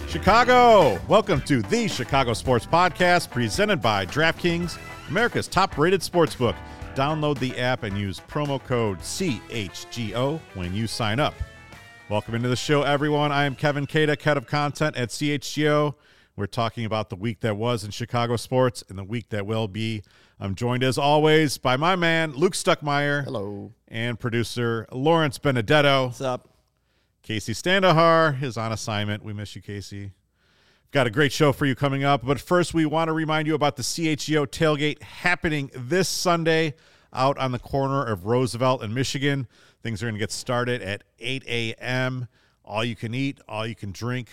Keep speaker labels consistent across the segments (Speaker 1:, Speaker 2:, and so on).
Speaker 1: Chicago! Welcome to the Chicago Sports Podcast, presented by DraftKings, America's top-rated sportsbook. Download the app and use promo code CHGO when you sign up. Welcome into the show, everyone. I am Kevin Kadek, head of content at CHGO. We're talking about the week that was in Chicago sports and the week that will be. I'm joined, as always, by my man, Luke Stuckmeyer.
Speaker 2: Hello.
Speaker 1: And producer Lawrence Benedetto.
Speaker 2: What's up?
Speaker 1: Casey Standahar is on assignment. We miss you, Casey. Got a great show for you coming up. But first, we want to remind you about the CHGO tailgate happening this Sunday out on the corner of Roosevelt and Michigan. Things are going to get started at 8 a.m. All you can eat, all you can drink.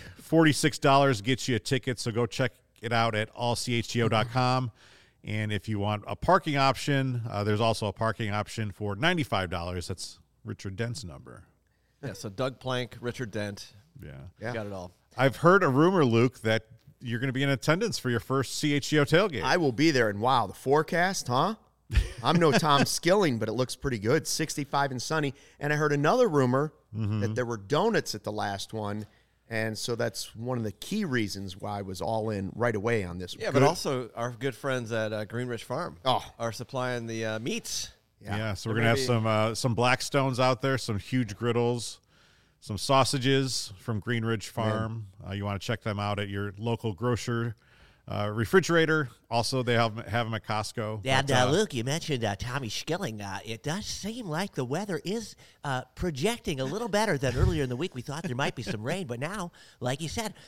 Speaker 1: $46 gets you a ticket, so go check it out at allchgo.com. And if you want a parking option, there's also a parking option for $95. That's Richard Dent's number.
Speaker 3: Yeah, so Doug Plank, Richard Dent.
Speaker 1: Yeah.
Speaker 3: You got it all.
Speaker 1: I've heard a rumor, Luke, that you're going to be in attendance for your first CHGO tailgate.
Speaker 2: I will be there, and wow, the forecast, huh? I'm no Tom Skilling, but it looks pretty good, 65 and sunny. And I heard another rumor that there were donuts at the last one, and so that's one of the key reasons why I was all in right away on this one.
Speaker 3: Yeah, but also our good friends at Greenridge Farm are supplying the meats.
Speaker 1: Yeah, so we're going to have some Blackstones out there, some huge griddles, some sausages from Greenridge Farm. You want to check them out at your local grocer refrigerator. Also, they have them at Costco.
Speaker 4: And Luke, you mentioned Tommy Skilling. It does seem like the weather is projecting a little better than earlier in the week. We thought there might be some rain, but now, like you said,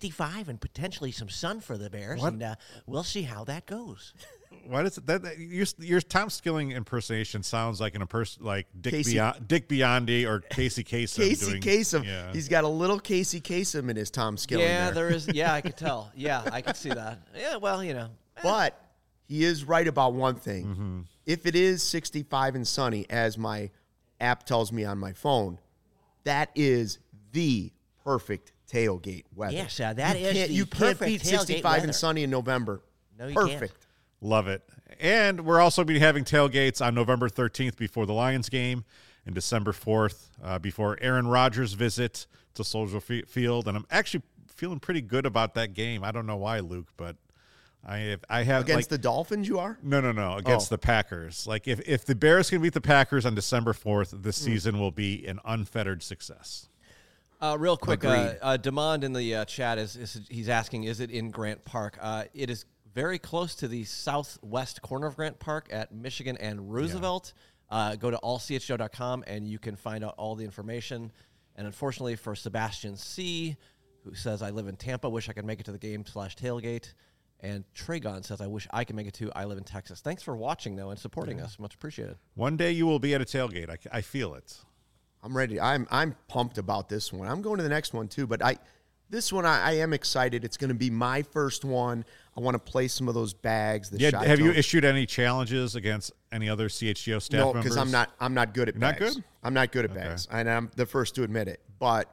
Speaker 4: 65 and potentially some sun for the Bears, and we'll see how that goes.
Speaker 1: Why does that your Tom Skilling impersonation sounds like Dick Biondi or Casey Kasem?
Speaker 2: Casey Kasem. Yeah. He's got a little Casey Kasem in his Tom Skilling.
Speaker 3: Yeah, there is. Yeah, I could tell. Yeah, I could see that. Yeah, well, you know.
Speaker 2: But he is right about one thing. Mm-hmm. If it is 65 and sunny, as my app tells me on my phone, that is the perfect tailgate weather.
Speaker 4: Yes,
Speaker 2: you can't beat 65 and sunny in November.
Speaker 4: No, you
Speaker 2: perfect.
Speaker 4: Can't.
Speaker 1: Love it. And we're also be having tailgates on November 13th before the Lions game and December 4th before Aaron Rodgers' visit to Soldier Field. And I'm actually feeling pretty good about that game. I don't know why, Luke, but I have
Speaker 2: against the Dolphins. You are
Speaker 1: no against the Packers. Like if the Bears can beat the Packers on December 4th, this season will be an unfettered success.
Speaker 3: Real quick, Demond in the chat he's asking, is it in Grant Park? It is very close to the southwest corner of Grant Park at Michigan and Roosevelt. Yeah. Go to allchgo.com and you can find out all the information. And unfortunately for Sebastian C., who says, I live in Tampa, wish I could make it to the game/tailgate. And Tragon says, I wish I could make it too. I live in Texas. Thanks for watching, though, and supporting us. Much appreciated.
Speaker 1: One day you will be at a tailgate. I feel it.
Speaker 2: I'm ready. I'm pumped about this one. I'm going to the next one, too. But this one, I am excited. It's going to be my first one. I want to play some of those bags.
Speaker 1: Have you issued any challenges against any other CHGO staff members?
Speaker 2: No, because I'm not good at bags.
Speaker 1: Not good?
Speaker 2: I'm not good at bags, and I'm the first to admit it. But,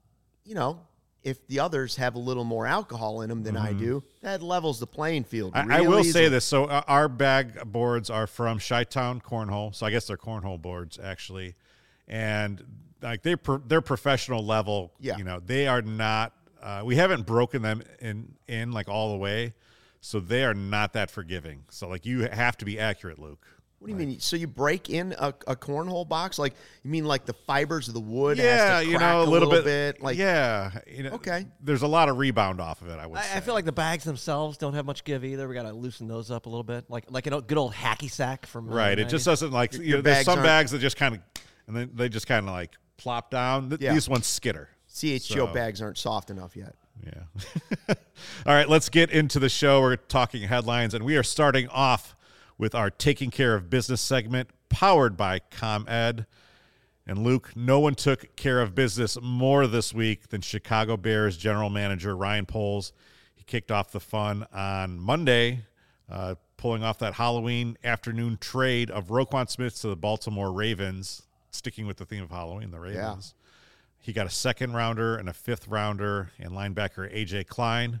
Speaker 2: if the others have a little more alcohol in them than I do, that levels the playing field.
Speaker 1: I will say this. So our bag boards are from Chi-Town Cornhole. So I guess they're cornhole boards, actually. And like they're professional level.
Speaker 2: Yeah.
Speaker 1: They are not we haven't broken them in like all the way. So they are not that forgiving. So like you have to be accurate, Luke.
Speaker 2: What do you mean? So you break in a cornhole box? Like you mean like the fibers of the wood?
Speaker 1: Yeah,
Speaker 2: has to crack a little bit. Like
Speaker 1: okay. There's a lot of rebound off of it. I would say.
Speaker 3: I feel like the bags themselves don't have much give either. We got to loosen those up a little bit, like a good old hacky sack from.
Speaker 1: Right. It just doesn't like there's some bags that just kind of and then they just kind of like plop down. These ones skitter.
Speaker 2: CHGO bags aren't soft enough yet.
Speaker 1: Yeah. All right, let's get into the show. We're talking headlines, and we are starting off with our Taking Care of Business segment, powered by ComEd. And Luke, no one took care of business more this week than Chicago Bears general manager Ryan Poles. He kicked off the fun on Monday, pulling off that Halloween afternoon trade of Roquan Smith to the Baltimore Ravens, sticking with the theme of Halloween, the Ravens. Yeah. He got a second rounder and a fifth rounder and linebacker A.J. Klein.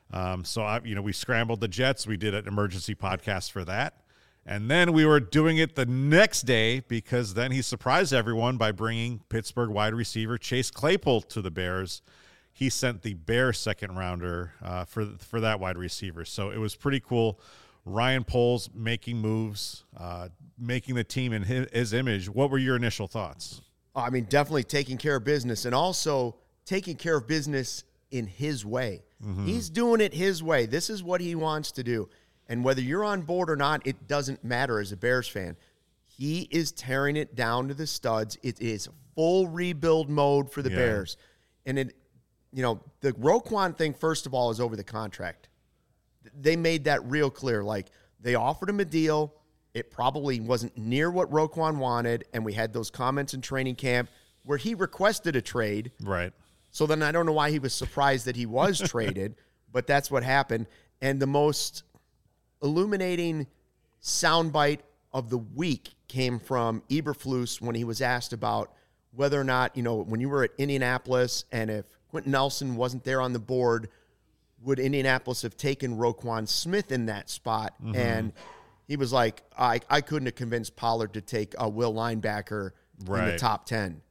Speaker 1: We scrambled the Jets. We did an emergency podcast for that. And then we were doing it the next day because then he surprised everyone by bringing Pittsburgh wide receiver Chase Claypool to the Bears. he sent the Bears second rounder for that wide receiver. So it was pretty cool. Ryan Poles making moves, making the team in his image. What were your initial thoughts?
Speaker 2: I mean, definitely taking care of business, and also taking care of business in his way. Mm-hmm. He's doing it his way. This is what he wants to do. And whether you're on board or not, it doesn't matter as a Bears fan. He is tearing it down to the studs. It is full rebuild mode for the Bears. And the Roquan thing, first of all, is over the contract. They made that real clear. Like, they offered him a deal. It probably wasn't near what Roquan wanted, and we had those comments in training camp where he requested a trade.
Speaker 1: Right.
Speaker 2: So then I don't know why he was surprised that he was traded, but that's what happened. And the most illuminating soundbite of the week came from Eberflus when he was asked about whether or not, when you were at Indianapolis and if Quentin Nelson wasn't there on the board, would Indianapolis have taken Roquan Smith in that spot? Mm-hmm. And he was like, I couldn't have convinced Pollard to take a Will linebacker in the top 10.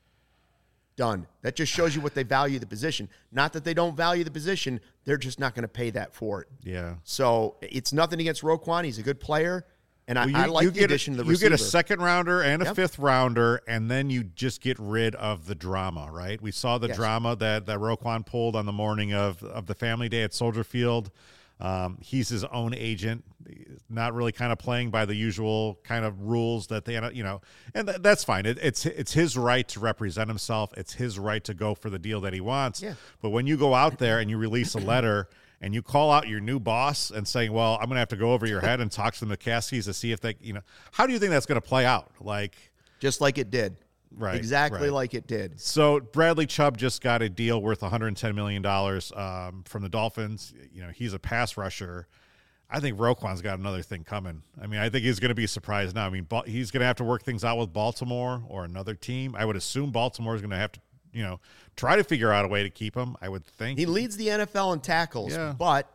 Speaker 2: Done. That just shows you what they value the position. Not that they don't value the position. They're just not going to pay that for it.
Speaker 1: Yeah.
Speaker 2: So it's nothing against Roquan. He's a good player. And I like the addition of the receiver.
Speaker 1: You get a second rounder and a fifth rounder, and then you just get rid of the drama, right? We saw the drama that Roquan pulled on the morning of the family day at Soldier Field. He's his own agent, not really kind of playing by the usual kind of rules that they, and that's fine. It's his right to represent himself. It's his right to go for the deal that he wants. Yeah. But when you go out there and you release a letter and you call out your new boss and saying, well, I'm going to have to go over your head and talk to the McCaskies to see if they, how do you think that's going to play out?
Speaker 2: Just like it did.
Speaker 1: Right.
Speaker 2: Exactly like it did.
Speaker 1: So Bradley Chubb just got a deal worth $110 million from the Dolphins. He's a pass rusher. I think Roquan's got another thing coming. I mean, I think he's going to be surprised now. I mean, he's going to have to work things out with Baltimore or another team. I would assume Baltimore is going to have to, try to figure out a way to keep him, I would think.
Speaker 2: He leads the NFL in tackles, but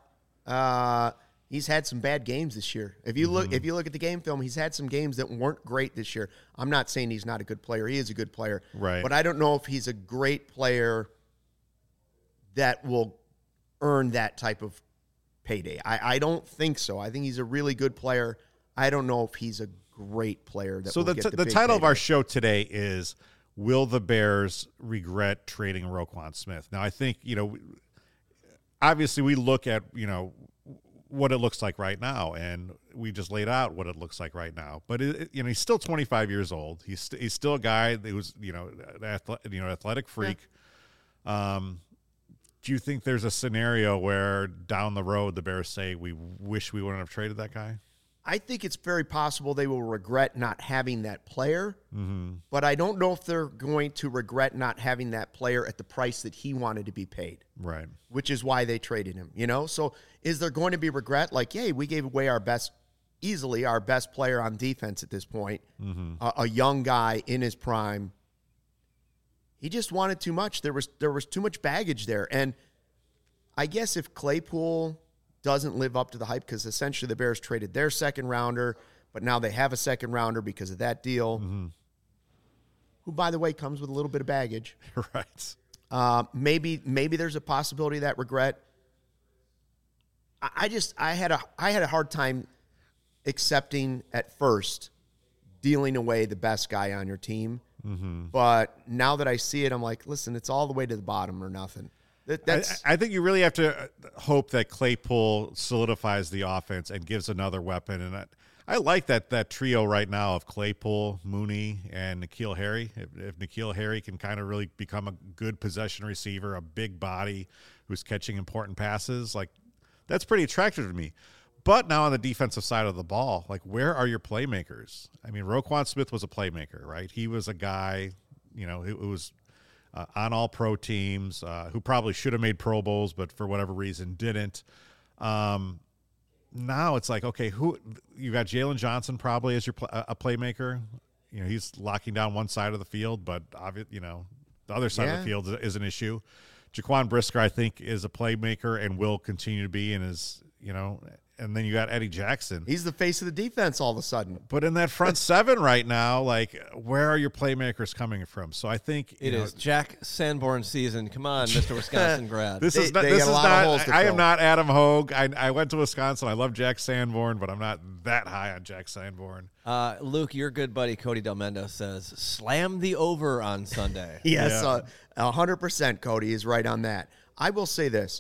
Speaker 2: he's had some bad games this year. If you look at the game film, he's had some games that weren't great this year. I'm not saying he's not a good player. He is a good player.
Speaker 1: Right.
Speaker 2: But I don't know if he's a great player that will earn that type of payday. I don't think so. I think he's a really good player. I don't know if he's a great player that will get the big
Speaker 1: title
Speaker 2: payday.
Speaker 1: of our show today is, will the Bears regret trading Roquan Smith? Now, I think, obviously we look at, what it looks like right now, and we just laid out what it looks like right now. But he's still 25 years old. He's still a guy that was athletic freak. Yeah. Do you think there's a scenario where down the road the Bears say we wish we wouldn't have traded that guy?
Speaker 2: I think it's very possible they will regret not having that player, but I don't know if they're going to regret not having that player at the price that he wanted to be paid.
Speaker 1: Right.
Speaker 2: Which is why they traded him, So is there going to be regret? Like, hey, we gave away easily our best player on defense at this point, a young guy in his prime. He just wanted too much. There was too much baggage there. And I guess if Claypool doesn't live up to the hype, because essentially the Bears traded their second rounder, but now they have a second rounder because of that deal, who, by the way, comes with a little bit of baggage.
Speaker 1: Right.
Speaker 2: Maybe there's a possibility of that regret. I had a hard time accepting at first dealing away the best guy on your team. But now that I see it, I'm like, listen, it's all the way to the bottom or nothing.
Speaker 1: I think you really have to hope that Claypool solidifies the offense and gives another weapon. And I like that trio right now of Claypool, Mooney, and N'Keal Harry. If N'Keal Harry can kind of really become a good possession receiver, a big body who's catching important passes, that's pretty attractive to me. But now on the defensive side of the ball, where are your playmakers? I mean, Roquan Smith was a playmaker, right? He was a guy, who was on all pro teams, who probably should have made Pro Bowls, but for whatever reason didn't. Now it's okay, who you got? Jalen Johnson probably as your a playmaker. He's locking down one side of the field, but the other side of the field is an issue. Jaquan Brisker, I think, is a playmaker and will continue to be, and is and then you got Eddie Jackson.
Speaker 2: He's the face of the defense all of a sudden.
Speaker 1: But in that front seven right now, like, where are your playmakers coming from? So I think
Speaker 3: it is Jack Sanborn season. Come on, Mr. Wisconsin grad.
Speaker 2: They got a lot of holes to
Speaker 1: I
Speaker 2: fill.
Speaker 1: am not Adam Hogue. I went to Wisconsin. I love Jack Sanborn, but I'm not that high on Jack Sanborn.
Speaker 3: Luke, your good buddy Cody Del Mendo says, slam the over on Sunday.
Speaker 2: Yes, 100%, Cody is right on that. I will say this.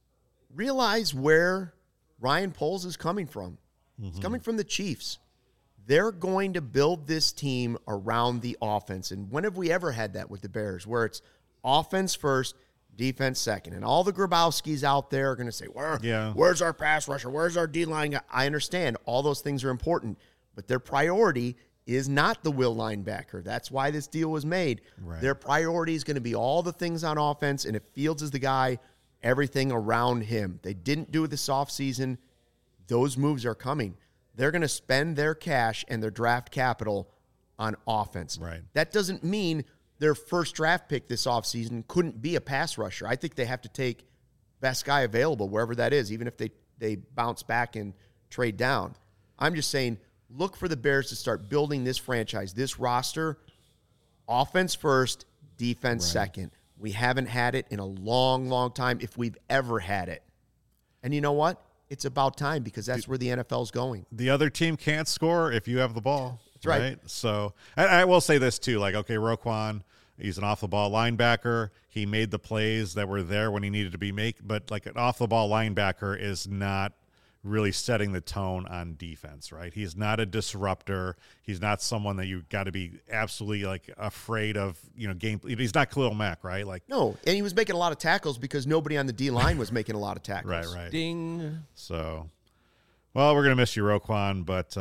Speaker 2: Realize where Ryan Poles is coming from. It's coming from the Chiefs. They're going to build this team around the offense. And when have we ever had that with the Bears, where it's offense first, defense second? And all the Grabowskis out there are going to say, where's our pass rusher? Where's our D-line guy? I understand all those things are important, but their priority is not the will linebacker. That's why this deal was made.
Speaker 1: Right.
Speaker 2: Their priority is going to be all the things on offense, and if Fields is the guy, everything around him. They didn't do it this offseason. Those moves are coming. They're going to spend their cash and their draft capital on offense.
Speaker 1: Right.
Speaker 2: That doesn't mean their first draft pick this offseason couldn't be a pass rusher. I think they have to take best guy available, wherever that is, even if they bounce back and trade down. I'm just saying, look for the Bears to start building this franchise, this roster, offense first, defense second. We haven't had it in a long, long time, if we've ever had it. And you know what? It's about time, because that's where the NFL's going.
Speaker 1: The other team can't score if you have the ball.
Speaker 2: That's right.
Speaker 1: So I will say this too, like, okay, Roquan, he's an off-the-ball linebacker. He made the plays that were there when he needed to be made, but like an off-the-ball linebacker is not really setting the tone on defense, right? He's not a disruptor. He's not someone that you got to be absolutely like afraid of, game. He's not Khalil Mack, right? Like,
Speaker 2: no, and he was making a lot of tackles because nobody on the D-line was making a lot of tackles.
Speaker 1: Right.
Speaker 3: Ding.
Speaker 1: So, well, we're going to miss you, Roquan, but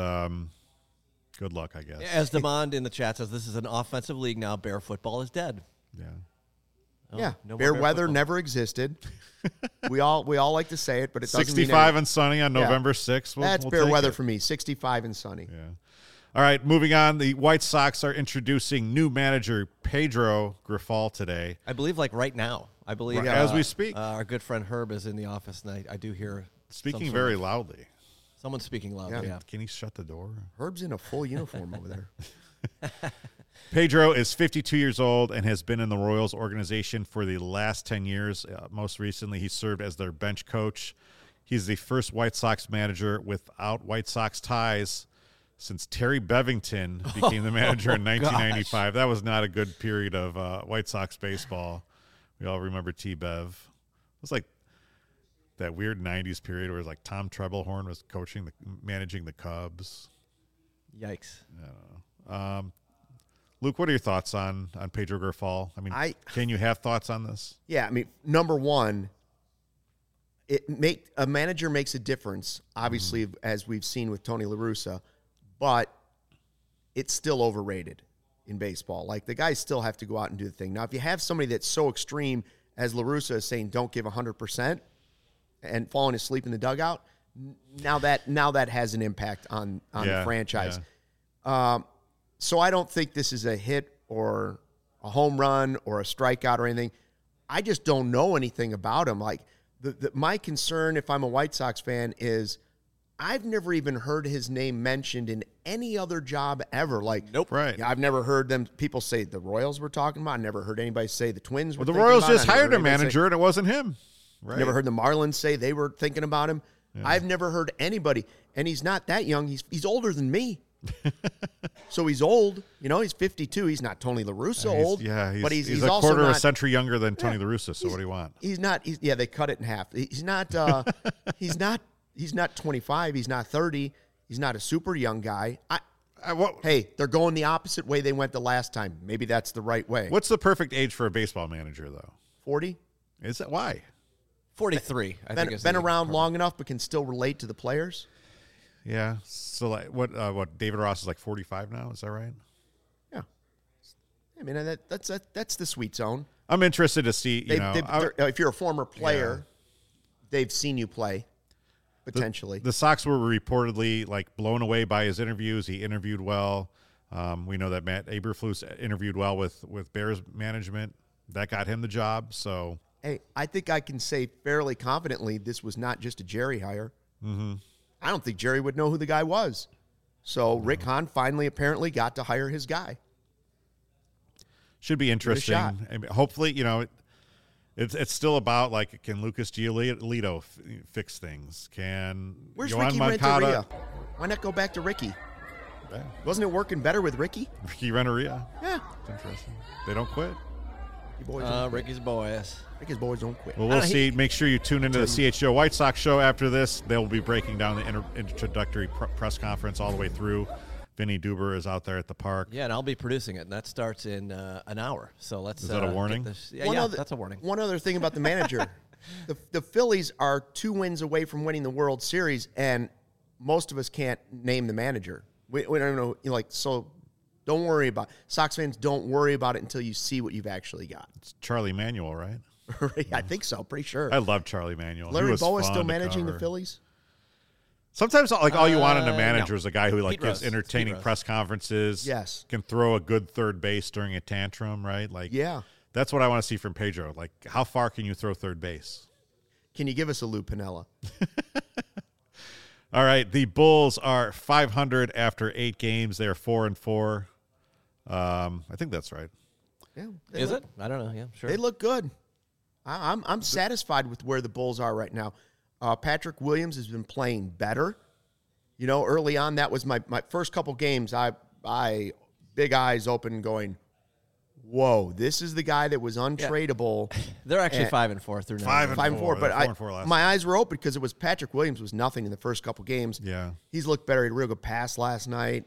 Speaker 1: good luck, I guess.
Speaker 3: As Demond in the chat says, this is an offensive league now. Bear football is dead.
Speaker 1: Yeah.
Speaker 2: Yeah,
Speaker 3: no more
Speaker 2: Bear
Speaker 3: Bear
Speaker 2: weather
Speaker 3: football.
Speaker 2: never existed. we all like to say it, but it doesn't
Speaker 1: 65
Speaker 2: mean
Speaker 1: and sunny on November 6th.
Speaker 2: That's
Speaker 1: we'll
Speaker 2: Bear
Speaker 1: take
Speaker 2: weather
Speaker 1: it.
Speaker 2: for me, 65 and sunny.
Speaker 1: Yeah. All right, moving on. The White Sox are introducing new manager Pedro Grifol today.
Speaker 3: I believe like right now. I believe
Speaker 1: As we speak.
Speaker 3: our good friend Herb is in the office, and I do hear
Speaker 1: Speaking
Speaker 3: some
Speaker 1: very
Speaker 3: sort of-
Speaker 1: loudly.
Speaker 3: Someone's speaking loudly. Yeah.
Speaker 1: Can he shut the door?
Speaker 2: Herb's in a full uniform over there.
Speaker 1: Pedro is 52 years old and has been in the Royals organization for the last 10 years. Most recently, he served as their bench coach. He's the first White Sox manager without White Sox ties since Terry Bevington became the manager in 1995. That was not a good period of White Sox baseball. We all remember T-Bev. It was like that weird 90s period where it was like Tom Trebelhorn was managing the Cubs.
Speaker 3: Yikes.
Speaker 1: Luke, what are your thoughts on Pedro Grifol? I mean, can you have thoughts on this?
Speaker 2: Yeah, I mean, number one, a manager makes a difference, obviously, as we've seen with Tony La Russa, but it's still overrated in baseball. Like, the guys still have to go out and do the thing. Now, if you have somebody that's so extreme as La Russa is saying, don't give 100% and falling asleep in the dugout, now that has an impact on the franchise.
Speaker 1: Yeah.
Speaker 2: So I don't think this is a hit or a home run or a strikeout or anything. I just don't know anything about him. Like, my concern, if I'm a White Sox fan, is I've never even heard his name mentioned in any other job ever. Like,
Speaker 3: Nope.
Speaker 1: Right.
Speaker 2: Yeah, I've never heard people say the Royals were talking about. I never heard anybody say the Twins were
Speaker 1: Well, the
Speaker 2: thinking
Speaker 1: Royals
Speaker 2: about it.
Speaker 1: just
Speaker 2: I never
Speaker 1: hired
Speaker 2: heard
Speaker 1: a
Speaker 2: anybody say-
Speaker 1: manager, and it wasn't him. Right.
Speaker 2: Never heard the Marlins say they were thinking about him. Yeah. I've never heard anybody, and he's not that young. He's older than me. So he's old. He's 52. He's not Tony La Russa old. But he's
Speaker 1: a
Speaker 2: also
Speaker 1: quarter of
Speaker 2: not,
Speaker 1: a century younger than Tony La Russa. So what do you want?
Speaker 2: He's not. They cut it in half. He's not. He's not 25. He's not 30. He's not a super young guy. Hey, they're going the opposite way they went the last time. Maybe that's the right way.
Speaker 1: What's the perfect age for a baseball manager, though?
Speaker 2: 40?
Speaker 1: Is that why?
Speaker 3: 43. I think is
Speaker 2: been
Speaker 3: the
Speaker 2: around
Speaker 3: part.
Speaker 2: long enough, but can still relate to the players.
Speaker 1: Yeah. So like what David Ross is like 45 now, is that right?
Speaker 2: Yeah. I mean, that's the sweet zone.
Speaker 1: I'm interested to see,
Speaker 2: if you're a former player, they've seen you play potentially.
Speaker 1: The Sox were reportedly like blown away by his interviews. He interviewed well. We know that Matt Eberflus interviewed well with Bears management. That got him the job. So
Speaker 2: hey, I think I can say fairly confidently this was not just a Jerry hire.
Speaker 1: mm-hmm.
Speaker 2: I don't think Jerry would know who the guy was. So Rick Hahn finally apparently got to hire his guy.
Speaker 1: Should be interesting. I mean, hopefully, it's still about, like, can Lucas Giolito fix things?
Speaker 2: Where's
Speaker 1: Yohan
Speaker 2: Ricky
Speaker 1: Moncada,
Speaker 2: Renteria? Why not go back to Ricky?
Speaker 1: Yeah.
Speaker 2: Wasn't it working better with Ricky?
Speaker 1: Ricky Renteria.
Speaker 2: Yeah.
Speaker 1: It's interesting. They don't quit.
Speaker 3: Ricky's boys.
Speaker 2: Ricky's boys don't quit.
Speaker 1: Well, we'll see. Make sure you tune into the CHGO White Sox show after this. They'll be breaking down the introductory press conference all the way through. Vinny Duber is out there at the park.
Speaker 3: Yeah, and I'll be producing it, and that starts in an hour. So let's.
Speaker 1: Is that a warning?
Speaker 3: That's a warning.
Speaker 2: One other thing about the manager. The Phillies are 2 wins away from winning the World Series, and most of us can't name the manager. We don't know. So don't worry about it. Sox fans, don't worry about it until you see what you've actually got.
Speaker 1: It's Charlie Manuel, right?
Speaker 2: I think so. Pretty sure.
Speaker 1: I love Charlie Manuel.
Speaker 2: Larry Bowa is still managing the Phillies?
Speaker 1: Sometimes, all you want in a manager is a guy who gives entertaining
Speaker 3: Pete
Speaker 1: press conferences.
Speaker 2: Yes.
Speaker 1: Can throw a good third base during a tantrum, right?
Speaker 2: Yeah.
Speaker 1: That's what I want to see from Pedro. Like, how far can you throw third base?
Speaker 2: Can you give us a Lou Piniella?
Speaker 1: All right, the Bulls are 500 after 8 games. They are 4-4. I think that's right.
Speaker 2: Yeah.
Speaker 3: Is it? I don't know. Yeah, sure.
Speaker 2: They look good. I'm satisfied with where the Bulls are right now. Patrick Williams has been playing better. Early on, that was my first couple games. I big eyes open going, whoa, this is the guy that was untradeable.
Speaker 3: They're actually 5-4 through now.
Speaker 2: 5-4, but
Speaker 1: 4-4 last
Speaker 2: my eyes were open because it was Patrick Williams was nothing in the first couple games.
Speaker 1: Yeah.
Speaker 2: He's looked better. He had a real good pass last night.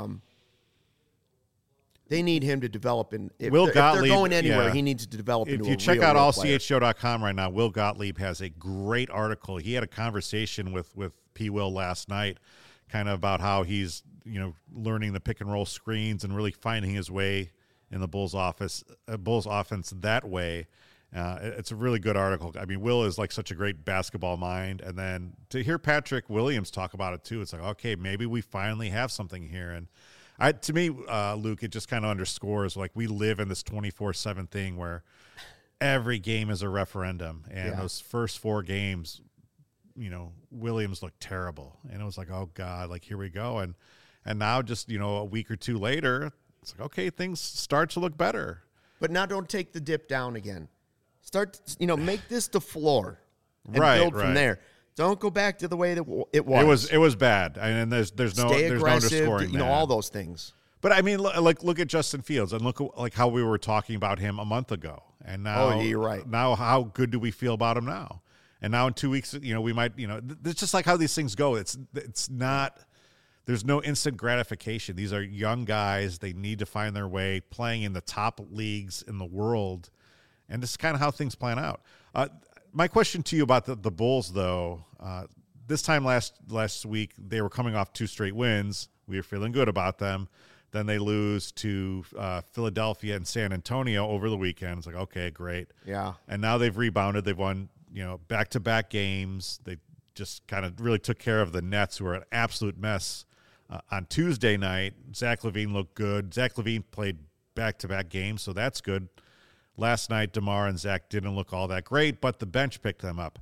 Speaker 2: They need him to develop. If they're going anywhere, he needs to develop into a real
Speaker 1: If you check out
Speaker 2: player.
Speaker 1: allchshow.com right now, Will Gottlieb has a great article. He had a conversation with P. Will last night, kind of about how he's learning the pick and roll screens and really finding his way in the Bulls offense that way. It's a really good article. I mean, Will is like such a great basketball mind, and then to hear Patrick Williams talk about it too, it's like, okay, maybe we finally have something here. And to me, Luke, it just kind of underscores like we live in this 24/7 thing where every game is a referendum, and those first 4 games, Williams looked terrible, and it was like, oh God, like here we go, and now just a week or 2 later, it's like, okay, things start to look better.
Speaker 2: But now don't take the dip down again. Start, make this the floor and build from there. Don't go back to the way that it was.
Speaker 1: It was bad, and there's no underscoring that.
Speaker 2: All those things.
Speaker 1: But I mean, look at Justin Fields, and look at how we were talking about him a month ago, and now
Speaker 2: you're right.
Speaker 1: Now, how good do we feel about him now? And now in 2 weeks, we might, it's just like how these things go. It's not. There's no instant gratification. These are young guys. They need to find their way, playing in the top leagues in the world, and this is kind of how things plan out. My question to you about the Bulls, though, this time last week, they were coming off 2 straight wins. We were feeling good about them. Then they lose to Philadelphia and San Antonio over the weekend. It's like, okay, great.
Speaker 2: Yeah.
Speaker 1: And now they've rebounded. They've won, back-to-back games. They just kind of really took care of the Nets, who are an absolute mess. On Tuesday night, Zach LaVine looked good. Zach LaVine played back-to-back games, so that's good. Last night, DeMar and Zach didn't look all that great, but the bench picked them up.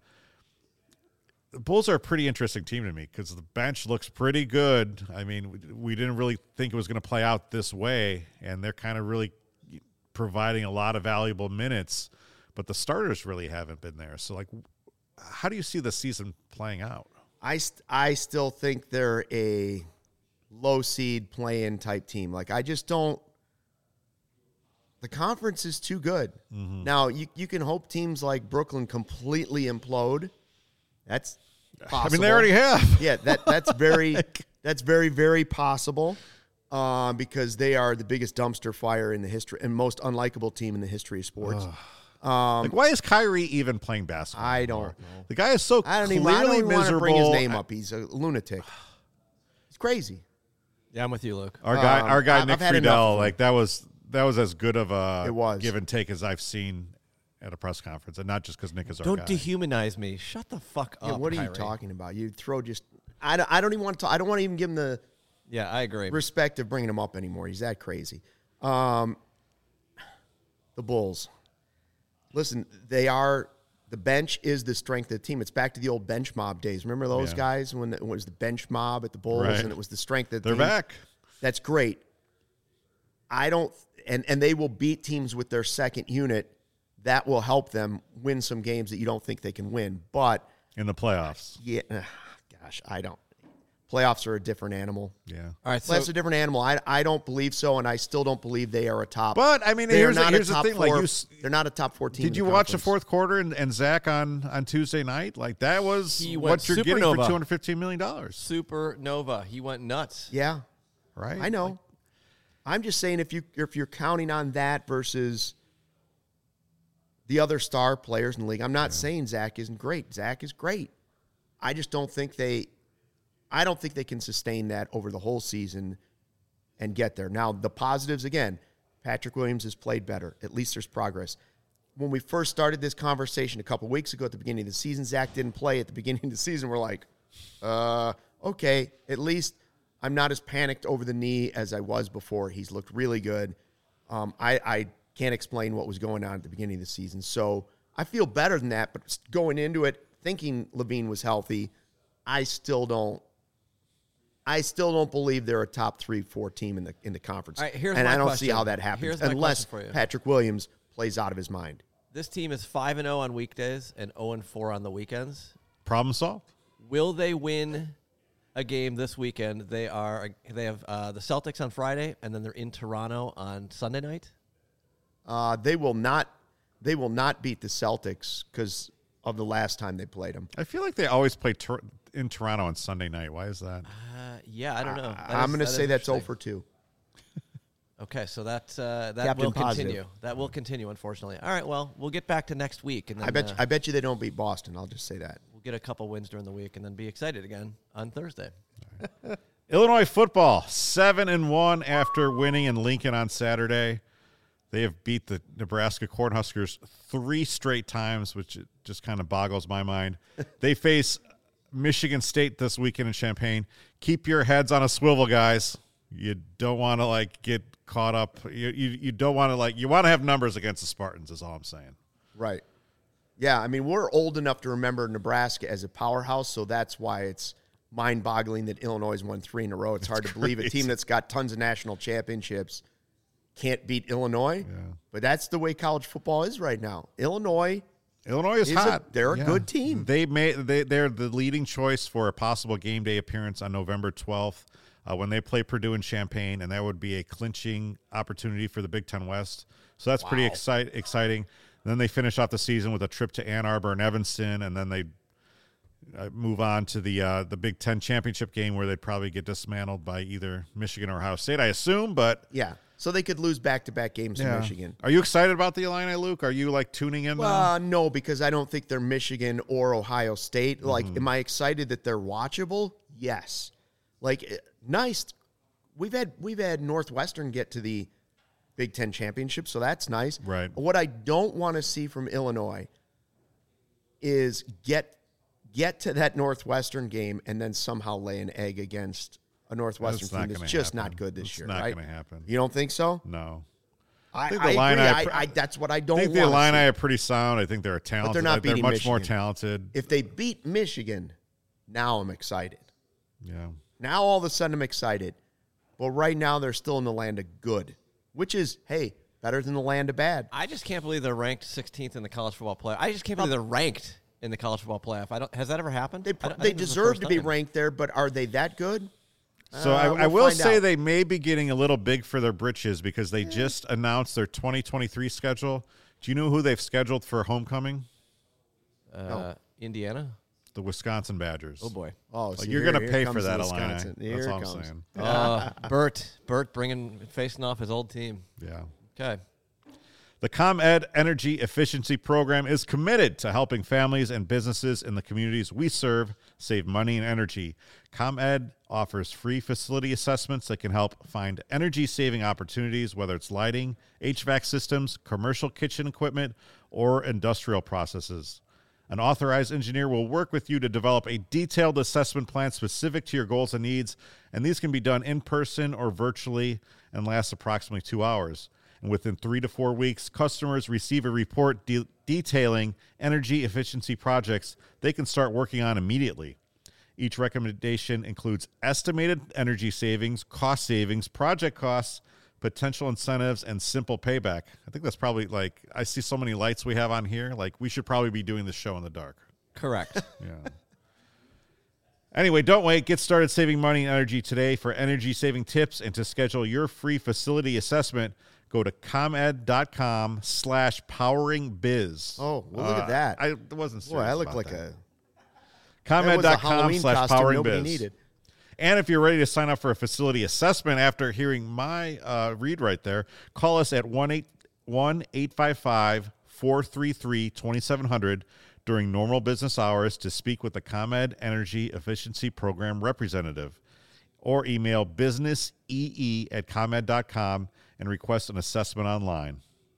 Speaker 1: The Bulls are a pretty interesting team to me because the bench looks pretty good. I mean, we didn't really think it was going to play out this way, and they're kind of really providing a lot of valuable minutes, but the starters really haven't been there. So, like, how do you see the season playing out?
Speaker 2: I still think they're a low seed play-in type team. Like, I just don't. The conference is too good. Mm-hmm. Now, you can hope teams like Brooklyn completely implode. That's possible.
Speaker 1: I mean, they already have.
Speaker 2: Yeah, that's very very possible because they are the biggest dumpster fire in the history and most unlikable team in the history of sports.
Speaker 1: Why is Kyrie even playing basketball?
Speaker 2: I don't know.
Speaker 1: The guy is so clearly miserable.
Speaker 2: I don't even want to bring his name up. He's a lunatic. He's crazy.
Speaker 3: Yeah, I'm with you, Luke.
Speaker 1: Our guy Nick Friedel, like that was as good of a give and take as I've seen at a press conference, and not just because Nick is our guy.
Speaker 3: Don't dehumanize me. Shut the fuck up.
Speaker 2: What are
Speaker 3: Kyrie.
Speaker 2: you talking about? You throw just. I don't even want to. I don't want to even give him the.
Speaker 3: Yeah, I agree.
Speaker 2: Respect of bringing him up anymore. He's that crazy. The Bulls. Listen, they're the bench is the strength of the team. It's back to the old bench mob days. Remember those guys when it was the bench mob at the Bulls and it was the strength of the team?
Speaker 1: They're back.
Speaker 2: That's great. I don't – and they will beat teams with their second unit. That will help them win some games that you don't think they can win. But –
Speaker 1: in the playoffs.
Speaker 2: Yeah. Gosh, I don't. Playoffs are a different animal.
Speaker 1: Yeah.
Speaker 3: All right.
Speaker 2: Playoffs are a different animal. I don't believe so, and I still don't believe they are a top.
Speaker 1: But, I mean, here's the thing.
Speaker 2: They're not a top 4 team.
Speaker 1: Did you watch the fourth quarter and Zach on Tuesday night? Like, that was what you're getting for $215 million.
Speaker 3: Supernova. He went nuts.
Speaker 2: Yeah.
Speaker 1: Right?
Speaker 2: I know. I'm just saying if you're counting on that versus the other star players in the league, I'm not saying Zach isn't great. Zach is great. I just don't think they can sustain that over the whole season and get there. Now, the positives, again, Patrick Williams has played better. At least there's progress. When we first started this conversation a couple weeks ago at the beginning of the season, Zach didn't play at the beginning of the season. We're like, okay, at least I'm not as panicked over the knee as I was before. He's looked really good. I can't explain what was going on at the beginning of the season. So I feel better than that, but going into it, thinking Levine was healthy, I still don't believe they're a top 3-4 team in the conference.
Speaker 3: All right, here's
Speaker 2: and
Speaker 3: my
Speaker 2: I don't
Speaker 3: question.
Speaker 2: see how that happens unless Patrick Williams plays out of his mind.
Speaker 3: This team is 5-0 on weekdays and 0-4 on the weekends.
Speaker 1: Problem solved.
Speaker 3: Will they win a game this weekend? They have the Celtics on Friday, and then they're in Toronto on Sunday night.
Speaker 2: They will not beat the Celtics because of the last time they played them.
Speaker 1: I feel like they always play in Toronto on Sunday night. Why is that?
Speaker 3: Yeah, I don't know.
Speaker 2: I'm going to say that's 0 for 2.
Speaker 3: Okay, so that
Speaker 2: Captain
Speaker 3: will
Speaker 2: Positive.
Speaker 3: continue. That will continue, unfortunately. All right, well, we'll get back to next week, and then
Speaker 2: I bet you they don't beat Boston. I'll just say that.
Speaker 3: we'll get a couple wins during the week, and then be excited again on Thursday.
Speaker 1: Illinois football 7-1 after winning in Lincoln on Saturday. They have beat the Nebraska Cornhuskers 3 straight times, which just kind of boggles my mind. They face Michigan State this weekend in Champaign. Keep your heads on a swivel, guys. You don't want to get caught up. You don't want to you want to have numbers against the Spartans is all I'm saying.
Speaker 2: Right. Yeah, I mean, we're old enough to remember Nebraska as a powerhouse, so that's why it's mind-boggling that Illinois has won 3 in a row. It's hard to believe a team that's got tons of national championships can't beat Illinois. Yeah. But that's the way college football is right now. Illinois
Speaker 1: is hot.
Speaker 2: They're a good team.
Speaker 1: They're the leading choice for a possible game day appearance on November 12th when they play Purdue in Champaign, and that would be a clinching opportunity for the Big Ten West. So that's pretty exciting. And then they finish off the season with a trip to Ann Arbor and Evanston, and then they move on to the Big Ten championship game where they'd probably get dismantled by either Michigan or Ohio State, I assume. But
Speaker 2: yeah. So they could lose back-to-back games to Michigan.
Speaker 1: Are you excited about the Illini, Luke? Are you tuning in?
Speaker 2: No, because I don't think they're Michigan or Ohio State. Am I excited that they're watchable? Yes. Nice. We've had Northwestern get to the Big Ten championship, so that's nice.
Speaker 1: Right.
Speaker 2: What I don't want to see from Illinois is get to that Northwestern game and then somehow lay an egg against a Northwestern team that's just not good this year.
Speaker 1: It's not going to happen.
Speaker 2: You don't think so?
Speaker 1: No.
Speaker 2: I agree. That's what I don't want to see.
Speaker 1: I think the Illini are pretty sound. I think they're talented.
Speaker 2: But they're not beating
Speaker 1: They're much
Speaker 2: Michigan.
Speaker 1: more talented.
Speaker 2: If they beat Michigan, now I'm excited.
Speaker 1: Yeah.
Speaker 2: Now all of a sudden I'm excited. But right now they're still in the land of good, which is, hey, better than the land of bad.
Speaker 3: I just can't believe they're ranked 16th in the college football playoff. I just can't believe they're ranked in the college football playoff. Has that ever happened?
Speaker 2: They deserve to be ranked there, but are they that good?
Speaker 1: So I will say they may be getting a little big for their britches because they just announced their 2023 schedule. Do you know who they've scheduled for homecoming?
Speaker 3: Indiana?
Speaker 1: The Wisconsin Badgers.
Speaker 3: Oh, boy.
Speaker 2: Oh, so
Speaker 1: you're going to pay for that,
Speaker 2: Wisconsin.
Speaker 1: Illini. That's all I'm saying.
Speaker 3: Bert facing off his old team.
Speaker 1: Yeah.
Speaker 3: Okay.
Speaker 1: The ComEd Energy Efficiency Program is committed to helping families and businesses in the communities we serve save money and energy. ComEd offers free facility assessments that can help find energy-saving opportunities, whether it's lighting, HVAC systems, commercial kitchen equipment, or industrial processes. An authorized engineer will work with you to develop a detailed assessment plan specific to your goals and needs, and these can be done in person or virtually and last approximately 2 hours. And within 3 to 4 weeks, customers receive a report detailing energy efficiency projects they can start working on immediately. Each recommendation includes estimated energy savings, cost savings, project costs, potential incentives, and simple payback. I think that's probably like, I see so many lights we have on here. Like, we should probably be doing this show in the dark.
Speaker 3: Correct.
Speaker 1: Yeah. Anyway, don't wait. Get started saving money and energy today. For energy saving tips and to schedule your free facility assessment, go to comed.com/poweringbiz.
Speaker 2: Oh, well, look at that.
Speaker 1: I wasn't serious.
Speaker 2: Boy, I look
Speaker 1: about
Speaker 2: like
Speaker 1: that.
Speaker 2: a Halloween costume nobody
Speaker 1: comed.com/poweringbiz.
Speaker 2: needed.
Speaker 1: And if you're ready to sign up for a facility assessment after hearing my read right there, call us at 1-855-433-2700 during normal business hours to speak with the ComEd Energy Efficiency Program representative, or email businessee@comed.com and request an assessment online.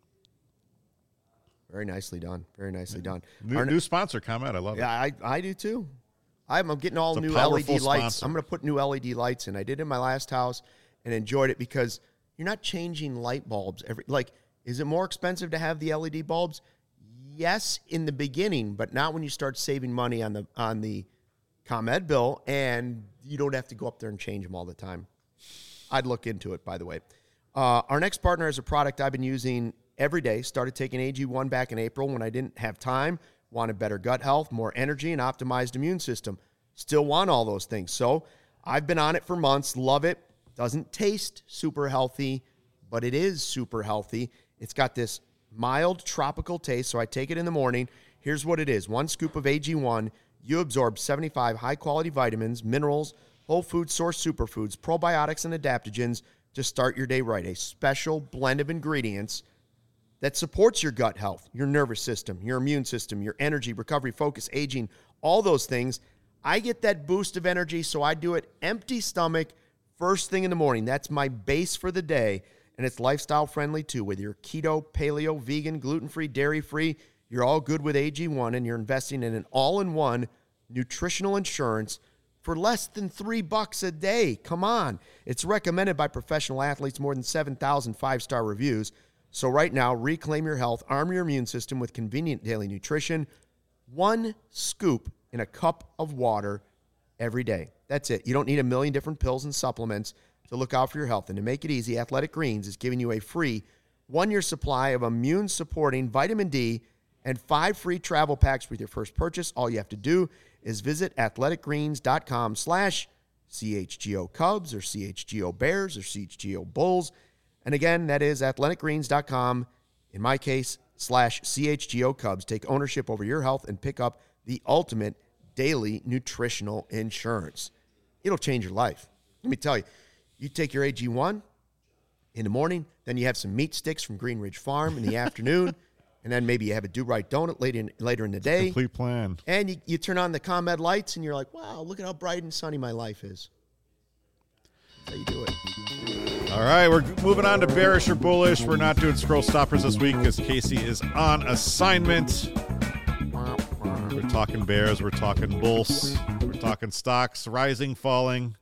Speaker 2: Very nicely done. Very nicely done.
Speaker 1: New sponsor, ComEd. I love it.
Speaker 2: Yeah, I do too. I'm getting all
Speaker 1: It's a
Speaker 2: new
Speaker 1: powerful
Speaker 2: LED lights.
Speaker 1: sponsor.
Speaker 2: I'm going to put new LED lights in. I did in my last house and enjoyed it because you're not changing light bulbs is it more expensive to have the LED bulbs? Yes, in the beginning, but not when you start saving money on the ComEd bill, and you don't have to go up there and change them all the time. I'd look into it, by the way. Our next partner is a product I've been using every day. Started taking AG1 back in April when I didn't have time, wanted better gut health, more energy, and optimized immune system. Still want all those things. So I've been on it for months, love it. Doesn't taste super healthy, but it is super healthy. It's got this mild tropical taste, so I take it in the morning. Here's what it is. 1 scoop of AG1, you absorb 75 high-quality vitamins, minerals, whole food source superfoods, probiotics, and adaptogens to start your day right. A special blend of ingredients that supports your gut health, your nervous system, your immune system, your energy, recovery, focus, aging, all those things. I get that boost of energy, so I do it empty stomach, first thing in the morning. That's my base for the day, and it's lifestyle friendly too. Whether you're keto, paleo, vegan, gluten-free, dairy-free, you're all good with AG1, and you're investing in an all-in-one nutritional insurance for less than $3 a day. Come on. It's recommended by professional athletes, more than 7,000 five-star reviews. So right now, reclaim your health, arm your immune system with convenient daily nutrition. 1 scoop in a cup of water every day. That's it. You don't need a million different pills and supplements to look out for your health. And to make it easy, Athletic Greens is giving you a free 1-year supply of immune-supporting vitamin D and 5 free travel packs with your first purchase. All you have to do is visit athleticgreens.com/CHGO Cubs or CHGO Bears or CHGO Bulls. And again, that is athleticgreens.com, in my case, /CHGO Cubs. Take ownership over your health and pick up the ultimate daily nutritional insurance. It'll change your life. Let me tell you, you take your AG1 in the morning, then you have some meat sticks from Green Ridge Farm in the afternoon, and then maybe you have a Do-Right donut later in the day.
Speaker 1: Complete plan.
Speaker 2: And you turn on the ComEd lights, and you're like, wow, look at how bright and sunny my life is. That's how you do it.
Speaker 1: All right, we're moving on to bearish or bullish. We're not doing scroll stoppers this week because Casey is on assignment. We're talking bears. We're talking bulls. We're talking stocks, rising, falling.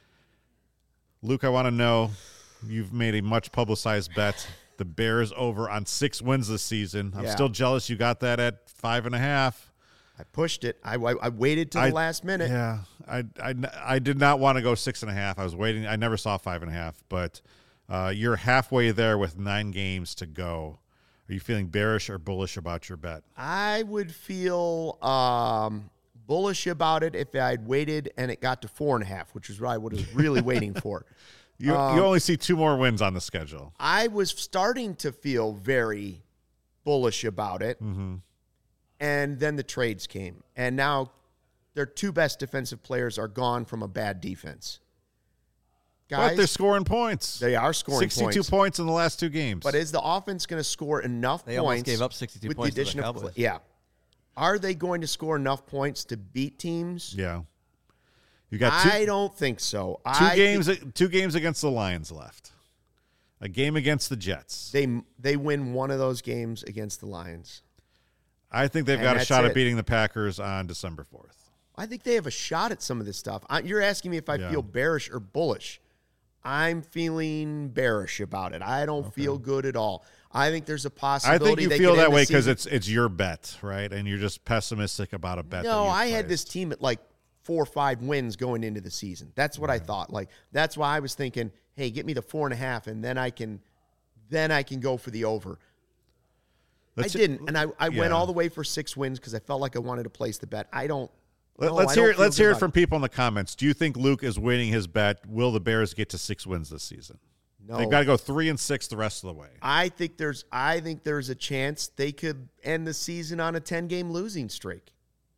Speaker 1: Luke, I want to know, you've made a much publicized bet. The Bears over on 6 wins this season. I'm still jealous you got that at 5.5.
Speaker 2: I pushed it. I waited till the last minute.
Speaker 1: Yeah, I did not want to go 6.5. I was waiting. I never saw 5.5, but you're halfway there with 9 games to go. Are you feeling bearish or bullish about your bet?
Speaker 2: I would feel bullish about it if I'd waited and it got to 4.5, which is what I was really waiting for.
Speaker 1: You only see 2 more wins on the schedule.
Speaker 2: I was starting to feel very bullish about it. Mm-hmm. And then the trades came. And now their 2 best defensive players are gone from a bad defense. Guys,
Speaker 1: But they're scoring points.
Speaker 2: They are scoring
Speaker 1: 62 points in the last 2 games.
Speaker 2: But is the offense going to score enough
Speaker 3: They
Speaker 2: points?
Speaker 3: almost gave up 62
Speaker 2: with
Speaker 3: points
Speaker 2: the
Speaker 3: to
Speaker 2: addition
Speaker 3: the
Speaker 2: of
Speaker 3: Cowboys.
Speaker 2: Yeah. Are they going to score enough points to beat teams?
Speaker 1: Yeah. You got 2
Speaker 2: I don't think so.
Speaker 1: 2 games against the Lions left. A game against the Jets.
Speaker 2: They win one of those games against the Lions.
Speaker 1: I think they've
Speaker 2: And
Speaker 1: got a
Speaker 2: that's
Speaker 1: shot at
Speaker 2: it.
Speaker 1: beating the Packers on December 4th.
Speaker 2: I think they have a shot at some of this stuff. You're asking me if I feel bearish or bullish. I'm feeling bearish about it. I don't feel good at all. I think there's a
Speaker 1: I
Speaker 2: possibility.
Speaker 1: think you
Speaker 2: they
Speaker 1: feel
Speaker 2: could
Speaker 1: that
Speaker 2: end
Speaker 1: way
Speaker 2: the
Speaker 1: because
Speaker 2: season.
Speaker 1: it's your bet, right? And you're just pessimistic about a bet.
Speaker 2: No,
Speaker 1: that
Speaker 2: I
Speaker 1: you
Speaker 2: had this
Speaker 1: placed.
Speaker 2: team at like 4 or 5 wins going into the season. That's what I thought. Like that's why I was thinking, hey, get me the 4.5, and then I can go for the over. I didn't, and I went all the way for 6 wins because I felt like I wanted to place the bet.
Speaker 1: Let's hear it from people in the comments. Do you think Luke is winning his bet? Will the Bears get to 6 wins this season?
Speaker 2: No.
Speaker 1: They've got to go 3-6 the rest of the way.
Speaker 2: I think there's a chance they could end the season on a 10-game losing streak.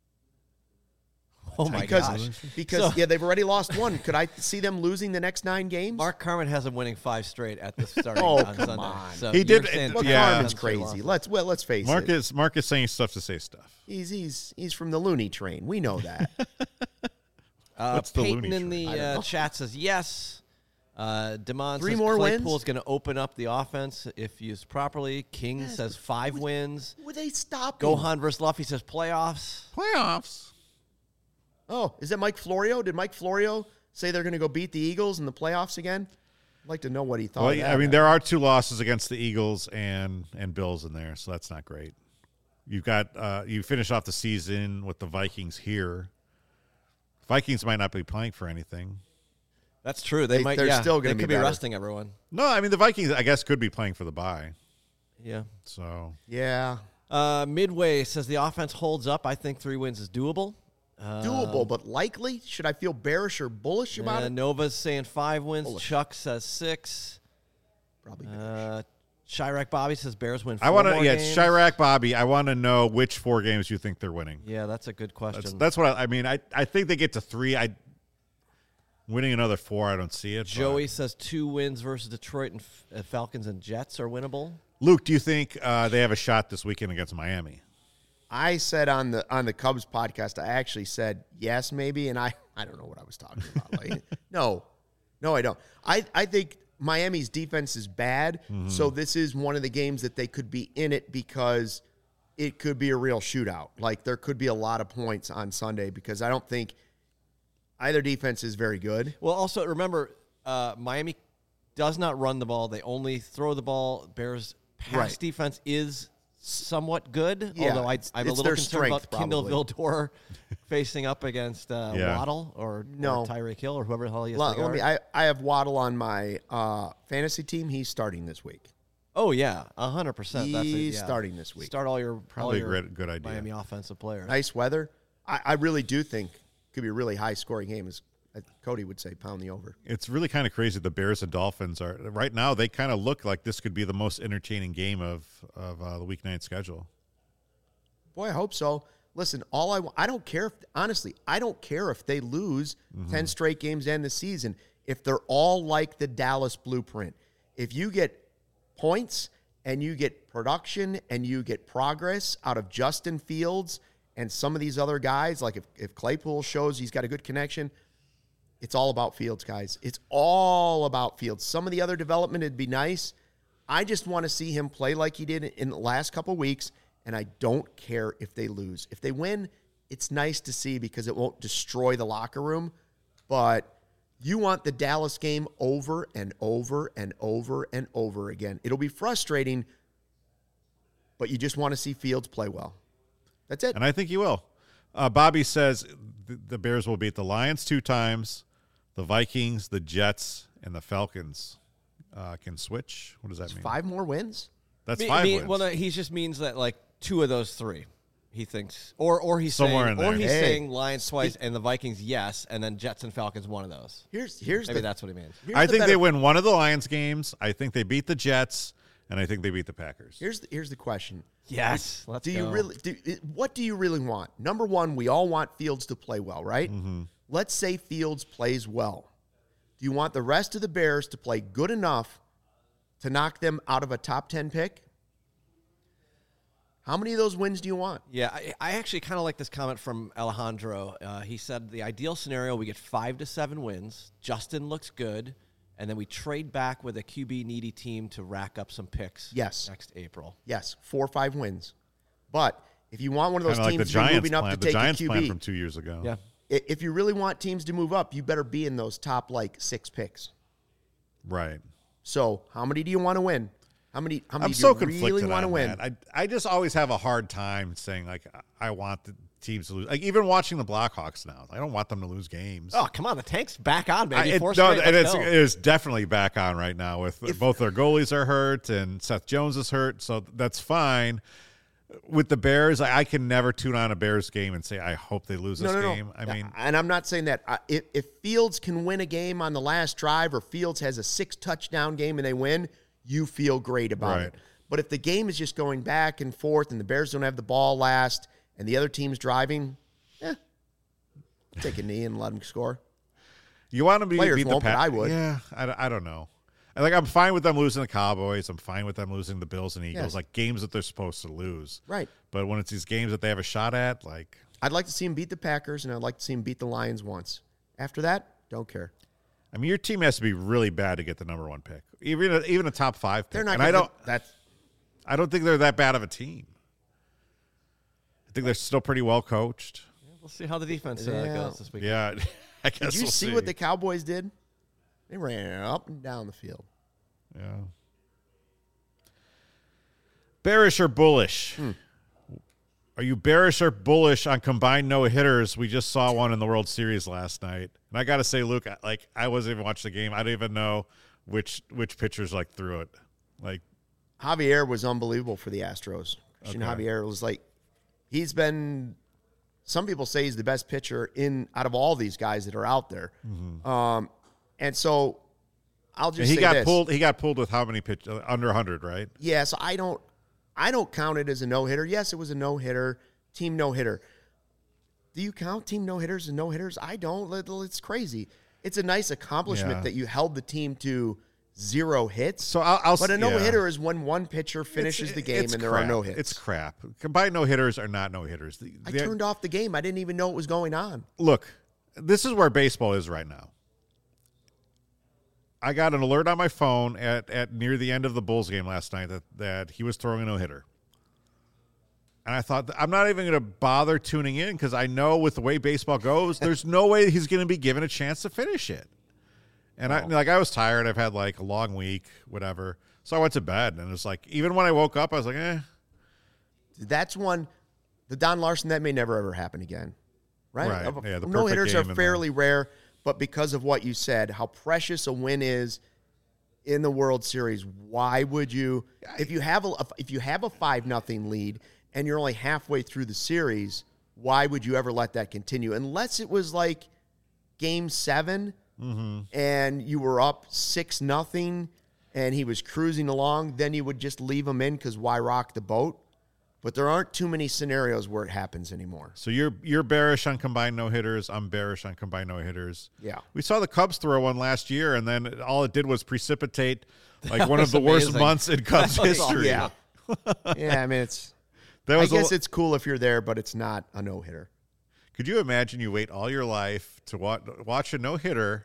Speaker 3: Oh my gosh!
Speaker 2: Because they've already lost 1. Could I see them losing the next 9 games?
Speaker 3: Mark Carman has them winning 5 straight at the starting
Speaker 2: Oh,
Speaker 3: on
Speaker 2: come
Speaker 3: Sunday.
Speaker 2: on.
Speaker 3: So
Speaker 1: He
Speaker 3: you're
Speaker 1: did-
Speaker 3: saying
Speaker 2: Well,
Speaker 1: Yeah.
Speaker 2: Carmen's crazy. Let's face it.
Speaker 1: Mark is saying stuff to say stuff.
Speaker 2: He's from the loony train. We know that.
Speaker 1: What's the
Speaker 3: Peyton
Speaker 1: loony
Speaker 3: in
Speaker 1: train?
Speaker 3: the chat says yes. Demond
Speaker 2: 3
Speaker 3: says
Speaker 2: more
Speaker 3: Claypool's
Speaker 2: wins?
Speaker 3: going to open up the offense if used properly. King says 5 wins.
Speaker 2: Would they stop him?
Speaker 3: Gohan versus Luffy says playoffs.
Speaker 1: Playoffs.
Speaker 2: Oh, is that Mike Florio? Did Mike Florio say they're going to go beat the Eagles in the playoffs again? I'd like to know what he thought.
Speaker 1: Well,
Speaker 2: of that.
Speaker 1: I mean, there are 2 losses against the Eagles and Bills in there, so that's not great. You've got you finish off the season with the Vikings here. Vikings might not be playing for anything.
Speaker 3: That's true. They're
Speaker 2: still
Speaker 3: they
Speaker 2: gonna be
Speaker 3: could be
Speaker 2: better.
Speaker 3: resting everyone.
Speaker 1: No, I mean the Vikings, I guess, could be playing for the bye.
Speaker 3: Yeah.
Speaker 1: So
Speaker 2: Yeah,
Speaker 3: Midway says the offense holds up. I think 3 wins is doable.
Speaker 2: doable, but likely. Should I feel bearish or bullish about it?
Speaker 3: Nova's saying 5 wins.
Speaker 2: Bullish.
Speaker 3: Chuck says 6.
Speaker 2: Probably bearish.
Speaker 3: Chirac Bobby says Bears win 4
Speaker 1: I want to,
Speaker 3: more
Speaker 1: yeah,
Speaker 3: games.
Speaker 1: Chirac Bobby. I want to know which 4 games you think they're winning.
Speaker 3: Yeah, that's a good question.
Speaker 1: That's what I mean. I think they get to 3. Winning another 4, I don't see it.
Speaker 3: Joey
Speaker 1: but.
Speaker 3: says 2 wins versus Detroit and Falcons and Jets are winnable.
Speaker 1: Luke, do you think they have a shot this weekend against Miami?
Speaker 2: I said on the Cubs podcast, I actually said yes, maybe, and I don't know what I was talking about. Like, no, I don't. I think Miami's defense is bad, so this is one of the games that they could be in it because it could be a real shootout. Like there could be a lot of points on Sunday because I don't think either defense is very good.
Speaker 3: Well, also remember, Miami does not run the ball. They only throw the ball. Bears' pass
Speaker 2: Right.
Speaker 3: defense is somewhat good,
Speaker 2: Yeah,
Speaker 3: although I'm
Speaker 2: it's
Speaker 3: a little
Speaker 2: their
Speaker 3: concerned about
Speaker 2: strength,
Speaker 3: Kindle
Speaker 2: probably.
Speaker 3: Vildor facing up against Waddle or Tyreek Hill or whoever the hell he is.
Speaker 2: Let me. I have Waddle on my fantasy team. He's starting this week.
Speaker 3: Oh yeah, 100%.
Speaker 2: He's starting this week.
Speaker 3: Start all your
Speaker 1: Probably
Speaker 3: all
Speaker 1: a
Speaker 3: your
Speaker 1: good idea.
Speaker 3: Miami offensive players.
Speaker 2: Nice weather. I really do think it could be a really high scoring game. As Cody would say, pound the over.
Speaker 1: It's really kind of crazy. The Bears and Dolphins are right now. They kind of look like this could be the most entertaining game of the weeknight schedule.
Speaker 2: Boy, I hope so. Listen, I don't care if honestly, I don't care if they lose 10 straight games and the season if they're all like the Dallas blueprint. If you get points and you get production and you get progress out of Justin Fields and some of these other guys, like if Claypool shows he's got a good connection, it's all about Fields, guys. It's all about Fields. Some of the other development would be nice. I just want to see him play like he did in the last couple weeks, and I don't care if they lose. If they win, it's nice to see because it won't destroy the locker room, but you want the Dallas game over and over and over and over again. It'll be frustrating, but you just want to see Fields play well. That's it.
Speaker 1: And I think he will. Bobby says the Bears will beat the Lions 2 times, the Vikings, the Jets, and the Falcons can switch. What does that mean?
Speaker 2: 5 more wins?
Speaker 1: That's 5 wins.
Speaker 3: Well, no, he just means that like 2 of those 3, he thinks, or he's
Speaker 1: Somewhere
Speaker 3: saying,
Speaker 1: in there.
Speaker 3: or he's
Speaker 2: Hey.
Speaker 3: saying Lions twice and the Vikings yes, and then Jets and Falcons one of those.
Speaker 2: Here's
Speaker 3: Maybe that's what he means.
Speaker 2: here's
Speaker 1: I
Speaker 2: the
Speaker 1: think
Speaker 2: better-
Speaker 1: they win one of the Lions games. I think they beat the Jets, and I think they beat the Packers.
Speaker 2: Here's the question.
Speaker 3: Yes, let's
Speaker 2: Do
Speaker 3: go.
Speaker 2: you really what do you really want? Number one, we all want Fields to play well, right? Let's say Fields plays well. Do you want the rest of the Bears to play good enough to knock them out of a top 10 pick? How many of those wins do you want?
Speaker 3: Yeah, I actually kind of like this comment from Alejandro. He said the ideal scenario, we get 5 to 7 wins. Justin looks good, and then we trade back with a QB needy team to rack up some picks.
Speaker 2: Yes.
Speaker 3: Next April.
Speaker 2: Yes, 4 or 5 wins. But if you want one of those
Speaker 1: Kind of like the
Speaker 2: teams to be
Speaker 1: Giants
Speaker 2: moving up
Speaker 1: plan.
Speaker 2: to
Speaker 1: The
Speaker 2: take
Speaker 1: Giants
Speaker 2: a
Speaker 1: plan
Speaker 2: QB,
Speaker 1: from 2 years ago.
Speaker 3: Yeah.
Speaker 2: if you really want teams to move up, you better be in those top like 6 picks.
Speaker 1: Right.
Speaker 2: So how many do you want to win? How many
Speaker 1: I'm
Speaker 2: do you
Speaker 1: so
Speaker 2: really
Speaker 1: conflicted
Speaker 2: want to
Speaker 1: on
Speaker 2: win?
Speaker 1: that. I just always have a hard time saying, like, I want the teams to lose. Like, even watching the Blackhawks now, I don't want them to lose games.
Speaker 3: Oh, come on. The tank's back on, baby.
Speaker 1: It is definitely back on right now with both their goalies are hurt and Seth Jones is hurt, so that's fine. With the Bears, I can never tune on a Bears game and say, I hope they lose this game. I mean,
Speaker 2: and I'm not saying that. If Fields can win a game on the last drive or Fields has a 6-touchdown game and they win, you feel great about it. But if the game is just going back and forth and the Bears don't have the ball last and the other team's driving, take a knee and let them score.
Speaker 1: You want to beat the
Speaker 2: Packers? I would.
Speaker 1: Yeah, I don't know. Like, I'm fine with them losing the Cowboys. I'm fine with them losing the Bills and Eagles, like games that they're supposed to lose.
Speaker 2: Right.
Speaker 1: But when it's these games that they have a shot at, like,
Speaker 2: I'd like to see them beat the Packers and I'd like to see them beat the Lions once. After that, don't care.
Speaker 1: I mean, your team has to be really bad to get the number 1 pick, even a top 5 pick.
Speaker 2: They're not.
Speaker 1: And I don't think they're that bad of a team. I think they're still pretty well coached.
Speaker 3: Yeah, we'll see how the defense goes this week.
Speaker 1: Yeah, I guess.
Speaker 2: Did you see what the Cowboys did? They ran up and down the field.
Speaker 1: Yeah. Bearish or bullish? Are you bearish or bullish on combined no-hitters? We just saw one in the World Series last night. And I got to say, Luke, I wasn't even watching the game. I don't even know which pitchers threw it. Like,
Speaker 2: Javier was unbelievable for the Astros. Christian Javier was he's been, some people say he's the best pitcher out of all these guys that are out there. Mm-hmm. And so I'll just say this.
Speaker 1: He got pulled with how many pitches? Under 100, right?
Speaker 2: Yeah, so I don't count it as a no-hitter. Yes, it was a no-hitter, team no-hitter. Do you count team no-hitters and no-hitters? I don't. It's crazy. It's a nice accomplishment that you held the team to 0 hits.
Speaker 1: So
Speaker 2: but a no-hitter is when one pitcher finishes the game and there are no hits.
Speaker 1: It's crap. Combined no-hitters are not no-hitters.
Speaker 2: I turned off the game. I didn't even know what was going on.
Speaker 1: Look, this is where baseball is right now. I got an alert on my phone at near the end of the Bulls game last night that he was throwing a no-hitter. And I thought, I'm not even going to bother tuning in because I know with the way baseball goes, there's no way he's going to be given a chance to finish it. And I was tired. I've had a long week, whatever. So I went to bed, and it's even when I woke up, I was like, eh.
Speaker 2: That's one, the Don Larson, that may never, ever happen again. Right?
Speaker 1: Yeah, the
Speaker 2: no-hitters are fairly rare, but because of what you said, how precious a win is in the World Series, why would you, if you have a 5-0 lead and you're only halfway through the series, why would you ever let that continue? Unless it was Game 7 and you were up 6-0 and he was cruising along, then you would just leave him in because why rock the boat? But there aren't too many scenarios where it happens anymore.
Speaker 1: So you're bearish on combined no-hitters. I'm bearish on combined no-hitters.
Speaker 2: Yeah.
Speaker 1: We saw the Cubs throw one last year, and then all it did was precipitate one of the worst months in Cubs history.
Speaker 2: Yeah. Yeah, I mean, I guess it's cool if you're there, but it's not a no-hitter.
Speaker 1: Could you imagine you wait all your life to watch a no-hitter?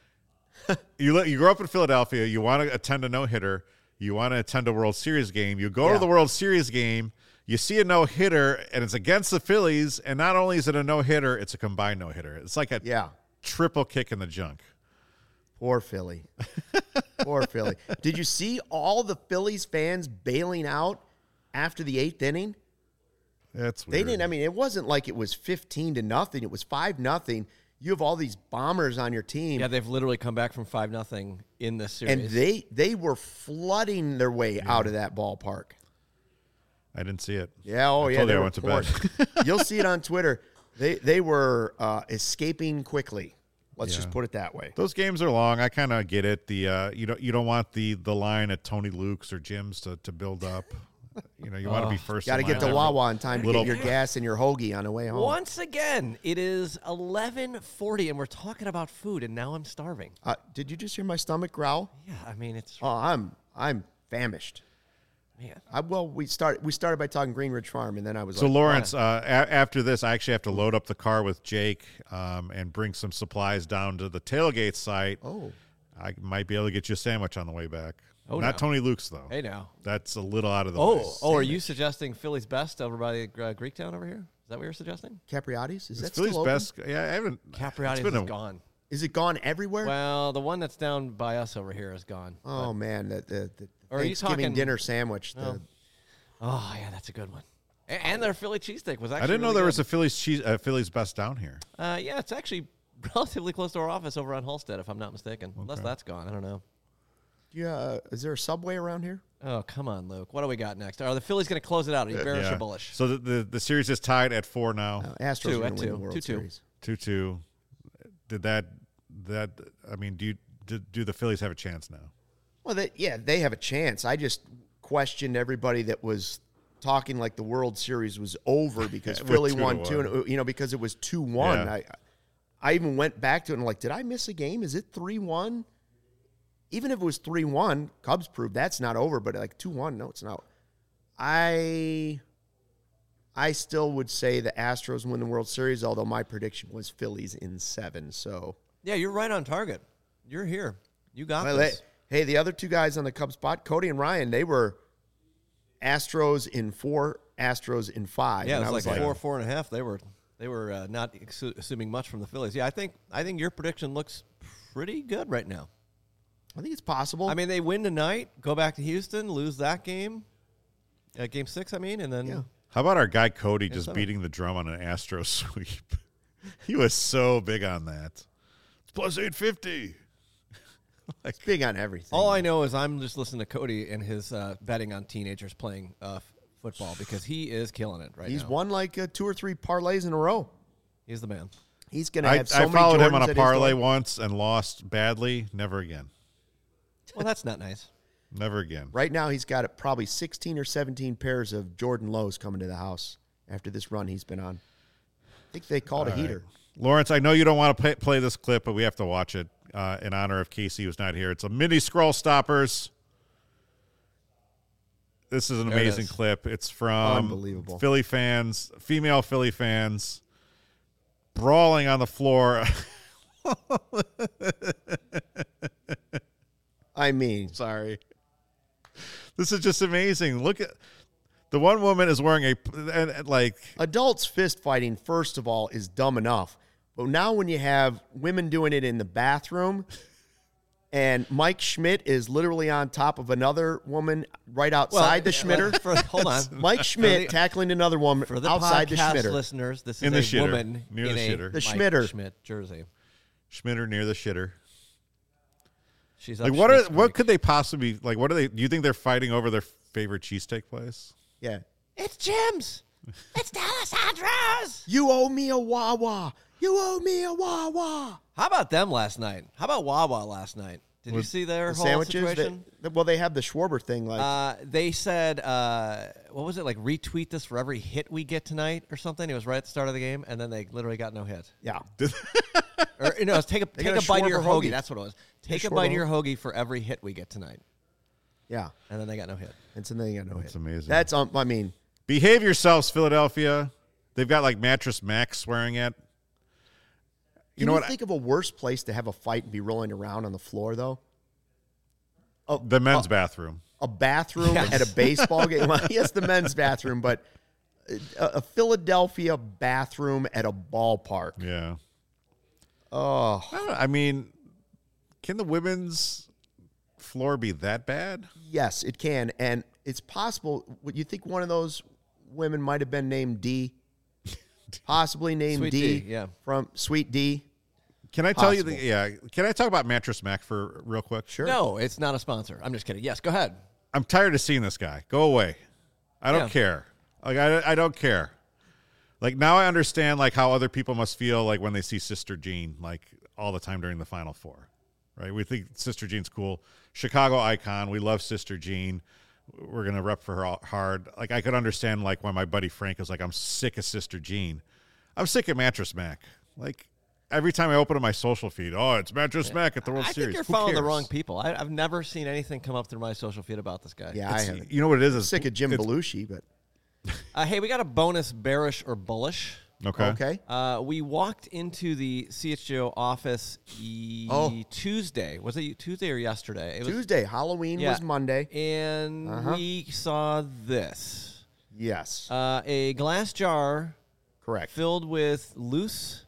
Speaker 1: You grow up in Philadelphia. You want to attend a no-hitter. You want to attend a World Series game. You go to the World Series game. You see a no-hitter, and it's against the Phillies, and not only is it a no-hitter, it's a combined no-hitter. It's like a triple kick in the junk.
Speaker 2: Poor Philly. Poor Philly. Did you see all the Phillies fans bailing out after the 8th inning?
Speaker 1: That's weird.
Speaker 2: They didn't. I mean, it wasn't like it was 15-0. It was 5-0. You have all these bombers on your team.
Speaker 3: Yeah, they've literally come back from 5-0 in this series.
Speaker 2: And they were flooding their way out of that ballpark.
Speaker 1: I didn't see it.
Speaker 2: Yeah,
Speaker 1: I went to bed.
Speaker 2: You'll see it on Twitter. They were escaping quickly. Let's just put it that way.
Speaker 1: Those games are long. I kind of get it. The you don't want the line at Tony Luke's or Jim's to build up. You want to be first.
Speaker 2: Got to get to Wawa in time to get your gas and your hoagie on the way home.
Speaker 3: Once again, it is 11:40, and we're talking about food, and now I'm starving.
Speaker 2: Did you just hear my stomach growl?
Speaker 3: Yeah, I mean it's.
Speaker 2: Oh, I'm famished.
Speaker 3: Man.
Speaker 2: We started by talking Greenridge Farm, and then I was
Speaker 1: so Lawrence. After this, I actually have to load up the car with Jake and bring some supplies down to the tailgate site.
Speaker 2: Oh,
Speaker 1: I might be able to get you a sandwich on the way back.
Speaker 3: Oh,
Speaker 1: not Tony Luke's though.
Speaker 3: Hey now,
Speaker 1: that's a little out of the way.
Speaker 3: Are you suggesting Philly's best over by Greektown over here? Is that what you're suggesting?
Speaker 2: Capriati's? Is that
Speaker 1: Philly's
Speaker 2: still open?
Speaker 1: best? Yeah, I haven't.
Speaker 3: Capriati's is gone.
Speaker 2: Is it gone everywhere?
Speaker 3: Well, the one that's down by us over here is gone.
Speaker 2: Oh, man. The
Speaker 3: Or are you
Speaker 2: Thanksgiving
Speaker 3: talking-
Speaker 2: dinner sandwich.
Speaker 3: Oh, yeah, that's a good one. And their Philly cheesesteak was actually
Speaker 1: I didn't know
Speaker 3: really
Speaker 1: there
Speaker 3: good.
Speaker 1: was a Philly's Best down here.
Speaker 3: Yeah, it's actually relatively close to our office over on Halstead, if I'm not mistaken. Unless that's gone. I don't know.
Speaker 2: Yeah. Is there a Subway around here?
Speaker 3: Oh, come on, Luke. What do we got next? Are the Phillies going to close it out? Are you bearish or bullish?
Speaker 1: So the series is tied at 4 now.
Speaker 2: Astros
Speaker 3: Two,
Speaker 2: are
Speaker 3: at
Speaker 2: going to win
Speaker 3: two.
Speaker 2: the World
Speaker 3: 2-2.
Speaker 2: Series.
Speaker 1: 2-2. Did that I mean, do the Phillies have a chance now?
Speaker 2: Well, they have a chance. I just questioned everybody that was talking like the World Series was over because
Speaker 1: With
Speaker 2: Philly
Speaker 1: 2-1.
Speaker 2: won 2, because it was 2-1.
Speaker 1: Yeah.
Speaker 2: I even went back to it and like, did I miss a game? Is it 3-1? Even if it was 3-1, Cubs proved that's not over, but like 2-1, no, it's not. I still would say the Astros win the World Series, although my prediction was Phillies in 7. So
Speaker 3: Yeah, you're right on target. You're here. You got
Speaker 2: well,
Speaker 3: this.
Speaker 2: hey, the other two guys on the Cubs spot, Cody and Ryan, they were Astros in 4, Astros in 5.
Speaker 3: Yeah,
Speaker 2: and
Speaker 3: it
Speaker 2: I
Speaker 3: was like 4.5. They were not assuming much from the Phillies. Yeah, I think your prediction looks pretty good right now.
Speaker 2: I think it's possible.
Speaker 3: I mean, they win tonight, go back to Houston, lose that game, game 6. I mean, and then
Speaker 2: Yeah.
Speaker 1: How about our guy Cody just
Speaker 3: 7.
Speaker 1: beating the drum on an Astro sweep? He was so big on that. It's plus 850.
Speaker 2: it's big on everything.
Speaker 3: all I know is I'm just listening to Cody and his betting on teenagers playing football because he is killing it right
Speaker 2: He's
Speaker 3: now.
Speaker 2: won like 2 or 3 parlays in a row.
Speaker 3: He's the man.
Speaker 2: He's going to
Speaker 1: I
Speaker 2: have so many
Speaker 1: followed him
Speaker 2: Jordans
Speaker 1: on
Speaker 2: at
Speaker 1: a
Speaker 2: his
Speaker 1: parlay
Speaker 2: door.
Speaker 1: once and lost badly. Never again.
Speaker 3: Well, that's not nice.
Speaker 1: Never again.
Speaker 2: Right now, he's got probably 16 or 17 pairs of Jordan Lows coming to the house after this run he's been on. I think they called a heater.
Speaker 1: Lawrence, I know you don't want to play this clip, but we have to watch it in honor of Casey, who's not here. It's a mini Scroll Stoppers. This is an
Speaker 3: There it
Speaker 1: amazing
Speaker 3: is.
Speaker 1: clip. It's from
Speaker 2: Unbelievable.
Speaker 1: Philly fans, female Philly fans, brawling on the floor.
Speaker 2: I mean,
Speaker 1: Sorry. This is just amazing. Look at the one woman is wearing
Speaker 2: adults fist fighting, first of all, is dumb enough. But now when you have women doing it in the bathroom and Mike Schmidt is literally on top of another woman right outside the Schmitter.
Speaker 3: Hold on.
Speaker 2: Mike Schmidt tackling another woman
Speaker 3: For the
Speaker 2: outside the
Speaker 3: podcast
Speaker 2: Schmitter.
Speaker 3: listeners, this
Speaker 1: In
Speaker 3: is
Speaker 1: the
Speaker 3: a
Speaker 1: shitter.
Speaker 3: woman
Speaker 1: Near
Speaker 3: in
Speaker 1: the
Speaker 3: a
Speaker 1: shitter.
Speaker 2: The
Speaker 3: Mike
Speaker 2: Schmitter.
Speaker 3: Schmidt jersey.
Speaker 1: Schmitter near the shitter.
Speaker 3: She's
Speaker 1: Like
Speaker 3: up
Speaker 1: what
Speaker 3: Schmidt's
Speaker 1: what
Speaker 3: Creek.
Speaker 1: could they possibly like? What are they? Do you think they're fighting over their favorite cheesesteak place?
Speaker 2: Yeah.
Speaker 3: It's Jim's. It's D'Alessandro's.
Speaker 2: You owe me a Wawa. You owe me a Wawa.
Speaker 3: How about them last night? How about Wawa last night? Did you see their
Speaker 2: The
Speaker 3: whole
Speaker 2: sandwiches.
Speaker 3: situation?
Speaker 2: Well, they have the Schwarber thing. Like,
Speaker 3: They said, what was it, like retweet this for every hit we get tonight or something? It was right at the start of the game, and then they literally got no hit.
Speaker 2: yeah.
Speaker 3: Or, it was take a
Speaker 2: got a
Speaker 3: bite of your
Speaker 2: Schwarber
Speaker 3: hoagie.
Speaker 2: hoagie.
Speaker 3: That's what it was. Take
Speaker 2: Yeah,
Speaker 3: a bite of
Speaker 2: Schwarber
Speaker 3: your hoagie for every hit we get tonight.
Speaker 2: Yeah.
Speaker 3: And then they got no hit.
Speaker 2: And so they got no
Speaker 1: That's
Speaker 2: hit.
Speaker 1: amazing.
Speaker 2: That's, I mean,
Speaker 1: Behave yourselves, Philadelphia. They've got like Mattress Mac swearing at.
Speaker 2: can
Speaker 1: know
Speaker 2: you
Speaker 1: what?
Speaker 2: think of a worse place to have a fight and be rolling around on the floor, though?
Speaker 1: The men's bathroom.
Speaker 2: A bathroom
Speaker 3: Yes.
Speaker 2: at a baseball game. Well, yes, the men's bathroom, but a Philadelphia bathroom at a ballpark.
Speaker 1: Yeah.
Speaker 2: Oh,
Speaker 1: I don't know. I mean, can the women's floor be that bad?
Speaker 2: yes, it can. And it's possible. Would you think one of those women might have been named D? Possibly named
Speaker 3: Sweet
Speaker 2: D,
Speaker 3: D, yeah.
Speaker 2: From Sweet D.
Speaker 1: Can I tell you?
Speaker 2: Possible.
Speaker 1: Can I talk about Mattress Mac for real quick?
Speaker 2: Sure.
Speaker 3: No, it's not a sponsor. I'm just kidding. Yes, go ahead.
Speaker 1: I'm tired of seeing this guy. Go away. I don't
Speaker 3: Yeah.
Speaker 1: care. Like I don't care. Like now I understand like how other people must feel like when they see Sister Jean like all the time during the Final Four, right? We think Sister Jean's cool, Chicago icon. We love Sister Jean. We're gonna rep for her hard. Like I could understand like when my buddy Frank was like, I'm sick of Sister Jean. I'm sick of Mattress Mac. Like every time I open up my social feed, oh, it's Mattress Mac at the World
Speaker 3: I
Speaker 1: Series.
Speaker 3: think you're
Speaker 1: Who
Speaker 3: following the
Speaker 1: cares?
Speaker 3: wrong people. I've never seen anything come up through my social feed about this guy.
Speaker 2: Yeah, I haven't.
Speaker 1: You know what it is? It's
Speaker 2: Sick of Jim
Speaker 1: it's-
Speaker 2: Belushi, but
Speaker 3: Hey, we got a bonus bearish or bullish.
Speaker 1: Okay.
Speaker 2: okay.
Speaker 3: We walked into the CHGO office Tuesday. Was it Tuesday or yesterday? It was
Speaker 2: Tuesday. Halloween
Speaker 3: yeah.
Speaker 2: was Monday.
Speaker 3: And we saw this.
Speaker 2: Yes.
Speaker 3: A glass jar
Speaker 2: Correct.
Speaker 3: filled with loose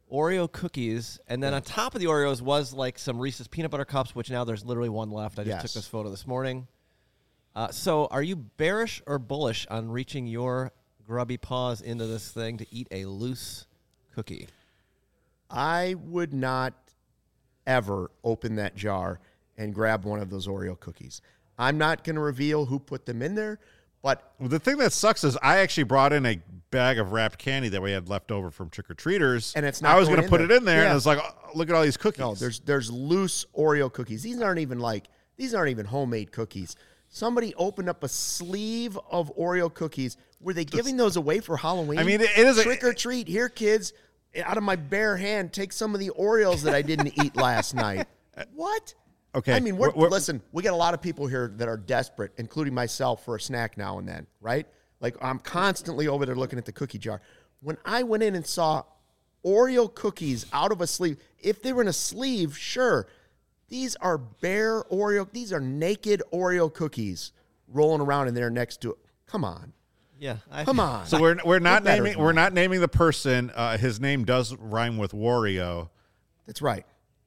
Speaker 3: Oreo cookies, and then on top of the Oreos was like some Reese's peanut butter cups, which now there's literally one left. I just took this photo this morning. So are you bearish or bullish on reaching your grubby paws into this thing to eat a loose cookie?
Speaker 2: I would not ever open that jar and grab one of those Oreo cookies. I'm not going to reveal who put them in there, but
Speaker 1: the thing that sucks is I actually brought in a bag of wrapped candy that we had left over from trick-or-treaters.
Speaker 2: And it's not
Speaker 1: I was going to put it in there,
Speaker 2: yeah.
Speaker 1: and I was like, oh, look at all these cookies.
Speaker 2: No, there's loose Oreo cookies. These aren't even homemade cookies. Somebody opened up a sleeve of Oreo cookies. Were they giving those away for Halloween?
Speaker 1: I mean, it is
Speaker 2: trick or treat. Here, kids, out of my bare hand, take some of the Oreos that I didn't eat last night. What?
Speaker 1: Okay.
Speaker 2: I mean, listen, we got a lot of people here that are desperate, including myself, for a snack now and then, right? Like, I'm constantly over there looking at the cookie jar. When I went in and saw Oreo cookies out of a sleeve, if they were in a sleeve, sure. These are bare Oreo. These are naked Oreo cookies rolling around in there next to it. Come on.
Speaker 3: Yeah.
Speaker 2: Come on.
Speaker 1: So we're not naming the person. His name does rhyme with Wario.
Speaker 2: That's right.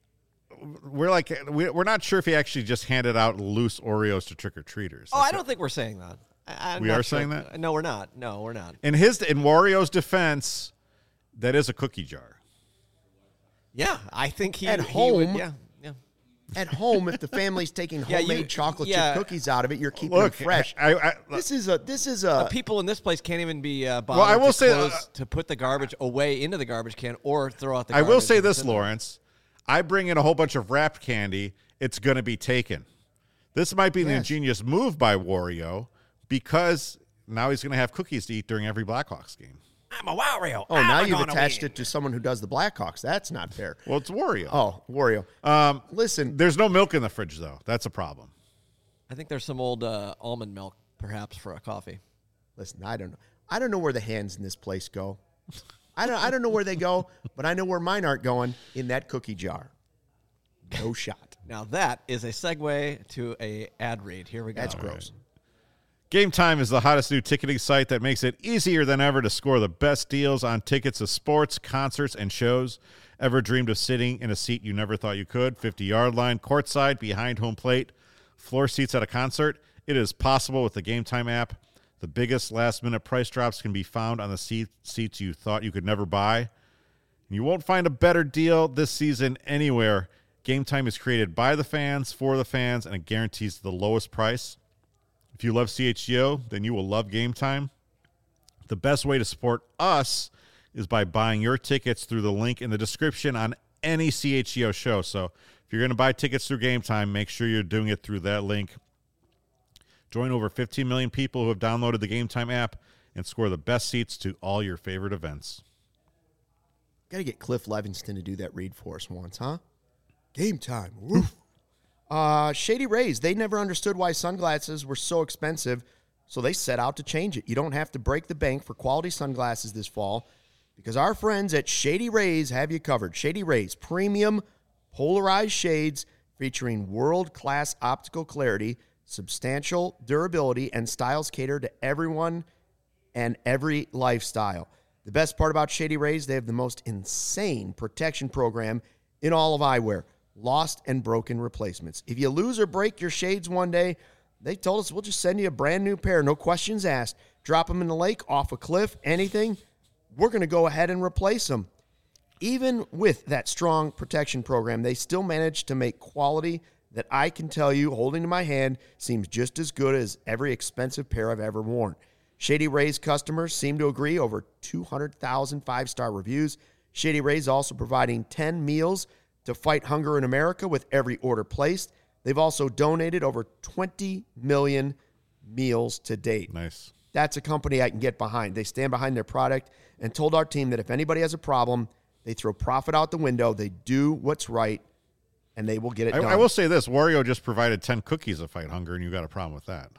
Speaker 1: We're not sure if he actually just handed out loose Oreos to trick-or-treaters.
Speaker 3: Oh, I don't think we're saying that. I'm
Speaker 1: we
Speaker 3: not
Speaker 1: are
Speaker 3: sure.
Speaker 1: saying that?
Speaker 3: No, we're not. No, we're not.
Speaker 1: In Wario's defense, that is a cookie jar.
Speaker 3: Yeah, I think he
Speaker 2: At
Speaker 3: would,
Speaker 2: home.
Speaker 3: yeah.
Speaker 2: At home, if the family's taking homemade chocolate chip cookies out of it, you're keeping
Speaker 1: Look,
Speaker 2: them fresh. This is a.
Speaker 3: People in this place can't even be bothered
Speaker 1: Well, I will say
Speaker 3: to put the garbage away into the garbage can or throw out the garbage.
Speaker 1: I will say this, Lawrence. I bring in a whole bunch of wrapped candy. It's going to be taken. This might be an ingenious move by Wario because now he's going to have cookies to eat during every Blackhawks game.
Speaker 3: I'm a Wario.
Speaker 2: Oh, now you've attached it to someone who does the Blackhawks. That's not fair.
Speaker 1: Well, it's Wario.
Speaker 2: Oh, Wario. Listen.
Speaker 1: There's no milk in the fridge, though. That's a problem.
Speaker 3: I think there's some old almond milk, perhaps, for a coffee.
Speaker 2: Listen, I don't know. I don't know where the hands in this place go. I don't know where they go, but I know where mine aren't going, in that cookie jar. No shot.
Speaker 3: Now that is a segue to a ad read. Here we go.
Speaker 2: That's gross.
Speaker 1: Game Time is the hottest new ticketing site that makes it easier than ever to score the best deals on tickets to sports, concerts, and shows. Ever dreamed of sitting in a seat you never thought you could? 50-yard line, courtside, behind home plate, floor seats at a concert? It is possible with the Game Time app. The biggest last-minute price drops can be found on the seats you thought you could never buy. You won't find a better deal this season anywhere. Game Time is created by the fans, for the fans, and it guarantees the lowest price. If you love CHGO, then you will love Game Time. The best way to support us is by buying your tickets through the link in the description on any CHGO show. So if you're going to buy tickets through Game Time, make sure you're doing it through that link. Join over 15 million people who have downloaded the Game Time app and score the best seats to all your favorite events.
Speaker 2: Got to get Cliff Levingston to do that read for us once, huh? Game Time. Woof. Shady Rays, they never understood why sunglasses were so expensive, so they set out to change it. You don't have to break the bank for quality sunglasses this fall because our friends at Shady Rays have you covered. Shady Rays, premium polarized shades featuring world-class optical clarity, substantial durability, and styles cater to everyone and every lifestyle. The best part about Shady Rays, they have the most insane protection program in all of eyewear. Lost and broken replacements. If you lose or break your shades one day, they told us we'll just send you a brand new pair. No questions asked. Drop them in the lake, off a cliff, anything. We're going to go ahead and replace them. Even with that strong protection program, they still manage to make quality that I can tell you, holding in my hand, seems just as good as every expensive pair I've ever worn. Shady Rays customers seem to agree. Over 200,000 five-star reviews. Shady Rays also providing 10 meals to fight hunger in America with every order placed. They've also donated over 20 million meals to date.
Speaker 1: Nice.
Speaker 2: That's a company I can get behind. They stand behind their product and told our team that if anybody has a problem, they throw profit out the window, they do what's right, and they will get it done.
Speaker 1: I will say this. Wario just provided 10 cookies to fight hunger, and you got a problem with that.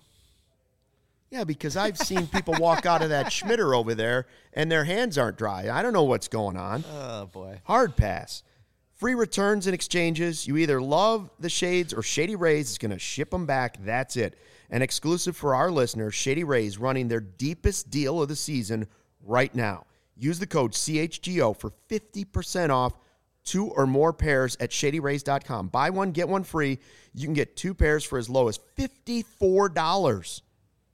Speaker 2: Yeah, because I've seen people walk out of that Schmitter over there, and their hands aren't dry. I don't know what's going on.
Speaker 3: Oh, boy.
Speaker 2: Hard pass. Free returns and exchanges. You either love the shades or Shady Rays is going to ship them back. That's it. And exclusive for our listeners, Shady Rays running their deepest deal of the season right now. Use the code CHGO for 50% off 2 or more pairs at ShadyRays.com. Buy one, get one free. You can get 2 pairs for as low as $54.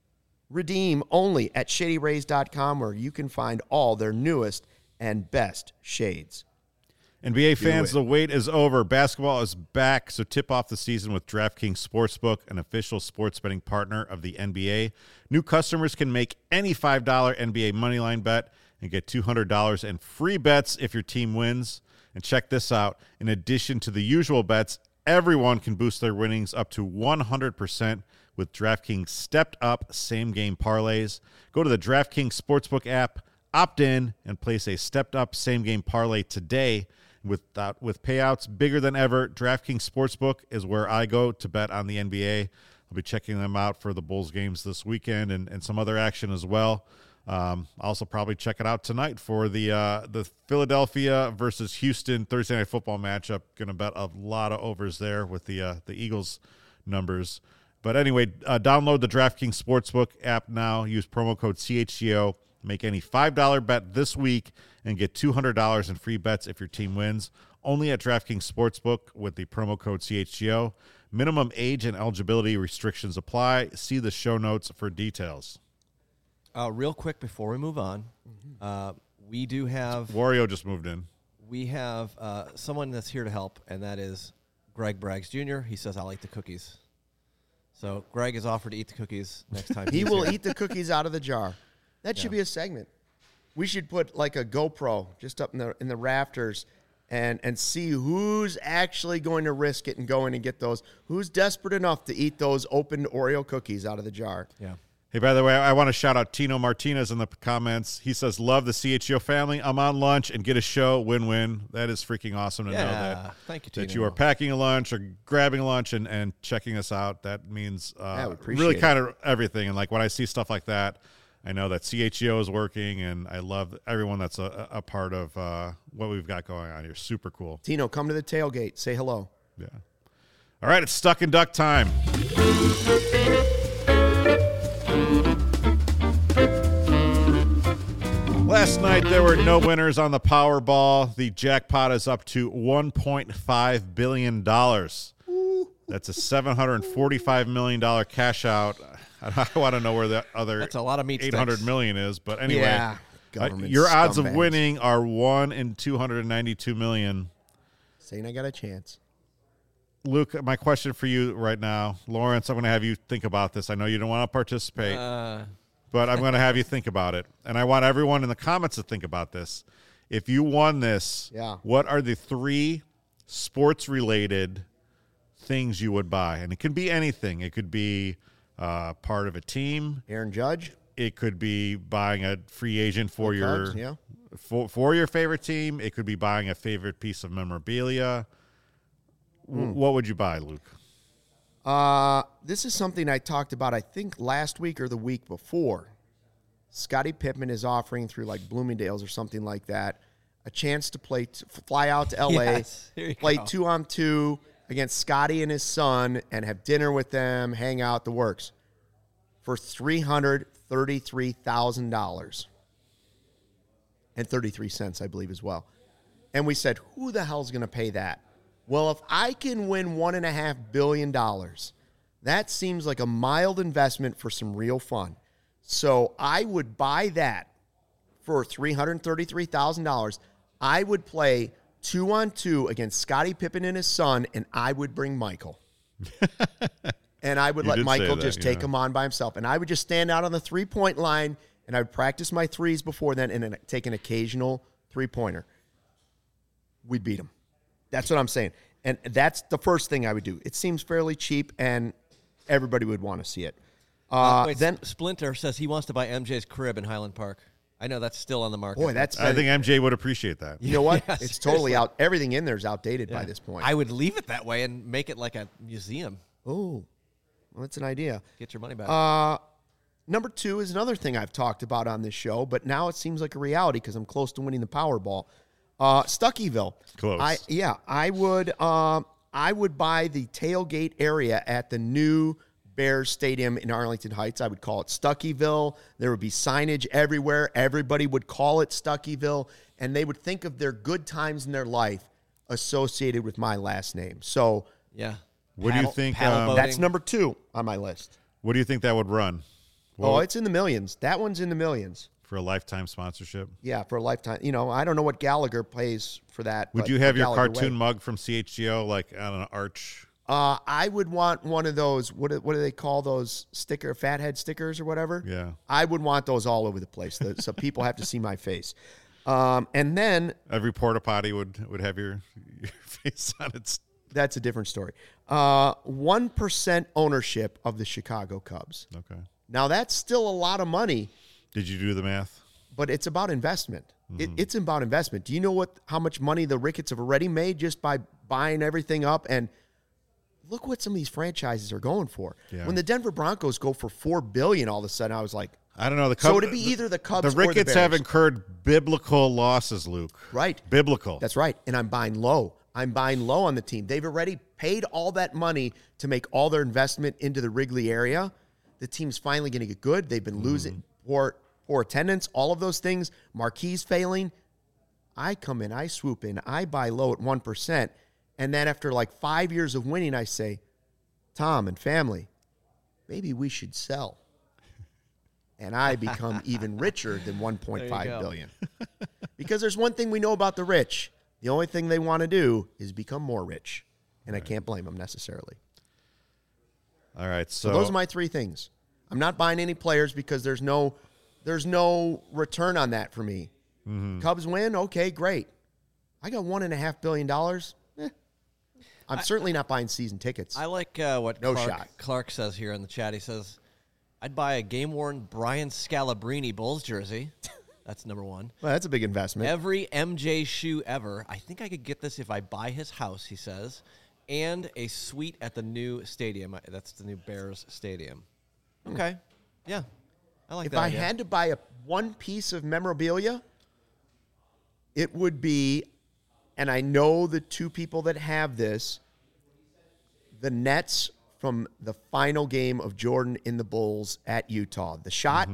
Speaker 2: Redeem only at ShadyRays.com, where you can find all their newest and best shades.
Speaker 1: NBA fans, the wait is over. Basketball is back, so tip off the season with DraftKings Sportsbook, an official sports betting partner of the NBA. New customers can make any $5 NBA moneyline bet and get $200 in free bets if your team wins. And check this out. In addition to the usual bets, everyone can boost their winnings up to 100% with DraftKings stepped-up same-game parlays. Go to the DraftKings Sportsbook app, opt in, and place a stepped-up same-game parlay today. With payouts bigger than ever, DraftKings Sportsbook is where I go to bet on the NBA. I'll be checking them out for the Bulls games this weekend and some other action as well. I'll also probably check it out tonight for the Philadelphia versus Houston Thursday Night Football matchup. Going to bet a lot of overs there with the Eagles numbers. But anyway, download the DraftKings Sportsbook app now. Use promo code CHGO. Make any $5 bet this week and get $200 in free bets if your team wins. Only at DraftKings Sportsbook with the promo code CHGO. Minimum age and eligibility restrictions apply. See the show notes for details.
Speaker 3: Real quick before we move on, we do have...
Speaker 1: Wario just moved in.
Speaker 3: We have someone that's here to help, and that is Greg Braggs Jr. He says, I'll eat the cookies. So Greg has offered to eat the cookies next time.
Speaker 2: He will eat the cookies out of the jar. That should be a segment. We should put like a GoPro just up in the rafters and see who's actually going to risk it and go in and get those. Who's desperate enough to eat those opened Oreo cookies out of the jar?
Speaker 3: Yeah.
Speaker 1: Hey, by the way, I want to shout out Tino Martinez in the comments. He says, love the CHGO family. I'm on lunch and get a show. Win-win. That is freaking awesome to know that.
Speaker 3: Thank you, Tino.
Speaker 1: That you are packing a lunch or grabbing a lunch and checking us out. That means really kind of everything. And like when I see stuff like that, I know that CHGO is working, and I love everyone that's a part of what we've got going on here. Super cool.
Speaker 2: Tino, come to the tailgate. Say hello.
Speaker 1: Yeah. All right, it's Stuck and Duck time. Last night, there were no winners on the Powerball. The jackpot is up to $1.5 billion. That's a $745 million cash out. I want to know where the other
Speaker 3: That's a lot of meat
Speaker 1: $800 million is. But anyway,
Speaker 2: your
Speaker 1: odds of winning are 1 in 292 million.
Speaker 2: Saying I got a chance.
Speaker 1: Luke, my question for you right now, Lawrence, I'm going to have you think about this. I know you don't want to participate, but I'm going to have you think about it. And I want everyone in the comments to think about this. If you won this, what are the 3 sports-related things you would buy? And it could be anything. It could be part of a team.
Speaker 2: Aaron Judge.
Speaker 1: It could be buying a free agent for
Speaker 2: your
Speaker 1: for your favorite team. It could be buying a favorite piece of memorabilia. What would you buy, Luke?
Speaker 2: This is something I talked about, I think, last week or the week before. Scottie Pippen is offering through like Bloomingdale's or something like that a chance to fly out to L.A., play 2-on-2 against Scottie and his son and have dinner with them, hang out, the works, for $333,000 and 33 cents, I believe, as well. And we said, who the hell's going to pay that? Well, if I can win $1.5 billion, that seems like a mild investment for some real fun. So I would buy that for $333,000. I would play 2-on-2 against Scottie Pippen and his son, and I would bring Michael. And I would let Michael just take him on by himself. And I would just stand out on the three-point line, and I would practice my threes before then and then take an occasional three-pointer. We'd beat him. That's what I'm saying. And that's the first thing I would do. It seems fairly cheap, and everybody would want to see it.
Speaker 3: Then Splinter says he wants to buy MJ's crib in Highland Park. I know that's still on the market.
Speaker 2: Boy,
Speaker 1: I think MJ would appreciate that.
Speaker 2: You know what? It's totally out. Everything in there is outdated by this point.
Speaker 3: I would leave it that way and make it like a museum.
Speaker 2: Oh, well, that's an idea.
Speaker 3: Get your money back.
Speaker 2: Number 2 is another thing I've talked about on this show, but now it seems like a reality because I'm close to winning the Powerball. Stuckyville.
Speaker 1: Close. I
Speaker 2: would buy the tailgate area at the new Bears Stadium in Arlington Heights, I would call it Stuckyville. There would be signage everywhere. Everybody would call it Stuckyville, and they would think of their good times in their life associated with my last name. So,
Speaker 3: yeah.
Speaker 1: What do you think?
Speaker 2: That's number 2 on my list.
Speaker 1: What do you think that would run?
Speaker 2: It's in the millions. That one's in the millions.
Speaker 1: For a lifetime sponsorship?
Speaker 2: Yeah, for a lifetime. I don't know what Gallagher pays for that.
Speaker 1: Would you have your cartoon mug from CHGO like on an arch?
Speaker 2: I would want one of those. What do they call those fathead stickers or whatever?
Speaker 1: Yeah.
Speaker 2: I would want those all over the place, so people have to see my face. And then
Speaker 1: every porta potty would have your face on it.
Speaker 2: That's a different story. 1% ownership of the Chicago Cubs.
Speaker 1: Okay.
Speaker 2: Now that's still a lot of money.
Speaker 1: Did you do the math?
Speaker 2: But it's about investment.
Speaker 1: Mm-hmm.
Speaker 2: It's about investment. Do you know how much money the Ricketts have already made just by buying everything up? And look what some of these franchises are going for. Yeah. When the Denver Broncos go for $4 billion, all of a sudden I was like,
Speaker 1: I don't know.
Speaker 2: So it'd be either the Cubs or the Bears.
Speaker 1: The Ricketts have incurred biblical losses, Luke.
Speaker 2: Right.
Speaker 1: Biblical.
Speaker 2: That's right. And I'm buying low. I'm buying low on the team. They've already paid all that money to make all their investment into the Wrigley area. The team's finally going to get good. They've been losing poor attendance, all of those things. Marquise failing. I come in, I swoop in, I buy low at 1%. And then after like 5 years of winning, I say, Tom and family, maybe we should sell. And I become even richer than $1.5 billion. Because there's one thing we know about the rich. The only thing they want to do is become more rich. And I can't blame them necessarily.
Speaker 1: All right.
Speaker 2: So those are my 3 things. I'm not buying any players because there's no return on that for me. Mm-hmm. Cubs win, okay, great. I got $1.5 billion. I'm certainly not buying season tickets.
Speaker 3: I like what Clark says here in the chat. He says, I'd buy a game-worn Brian Scalabrine Bulls jersey. That's number 1.
Speaker 2: Well, that's a big investment.
Speaker 3: Every MJ shoe ever. I think I could get this if I buy his house, he says. And a suite at the new stadium. That's the new Bears stadium. Okay. Yeah. I like that.
Speaker 2: If I had to buy one piece of memorabilia, it would be, and I know the 2 people that have this, the Nets from the final game of Jordan in the Bulls at Utah. The shot,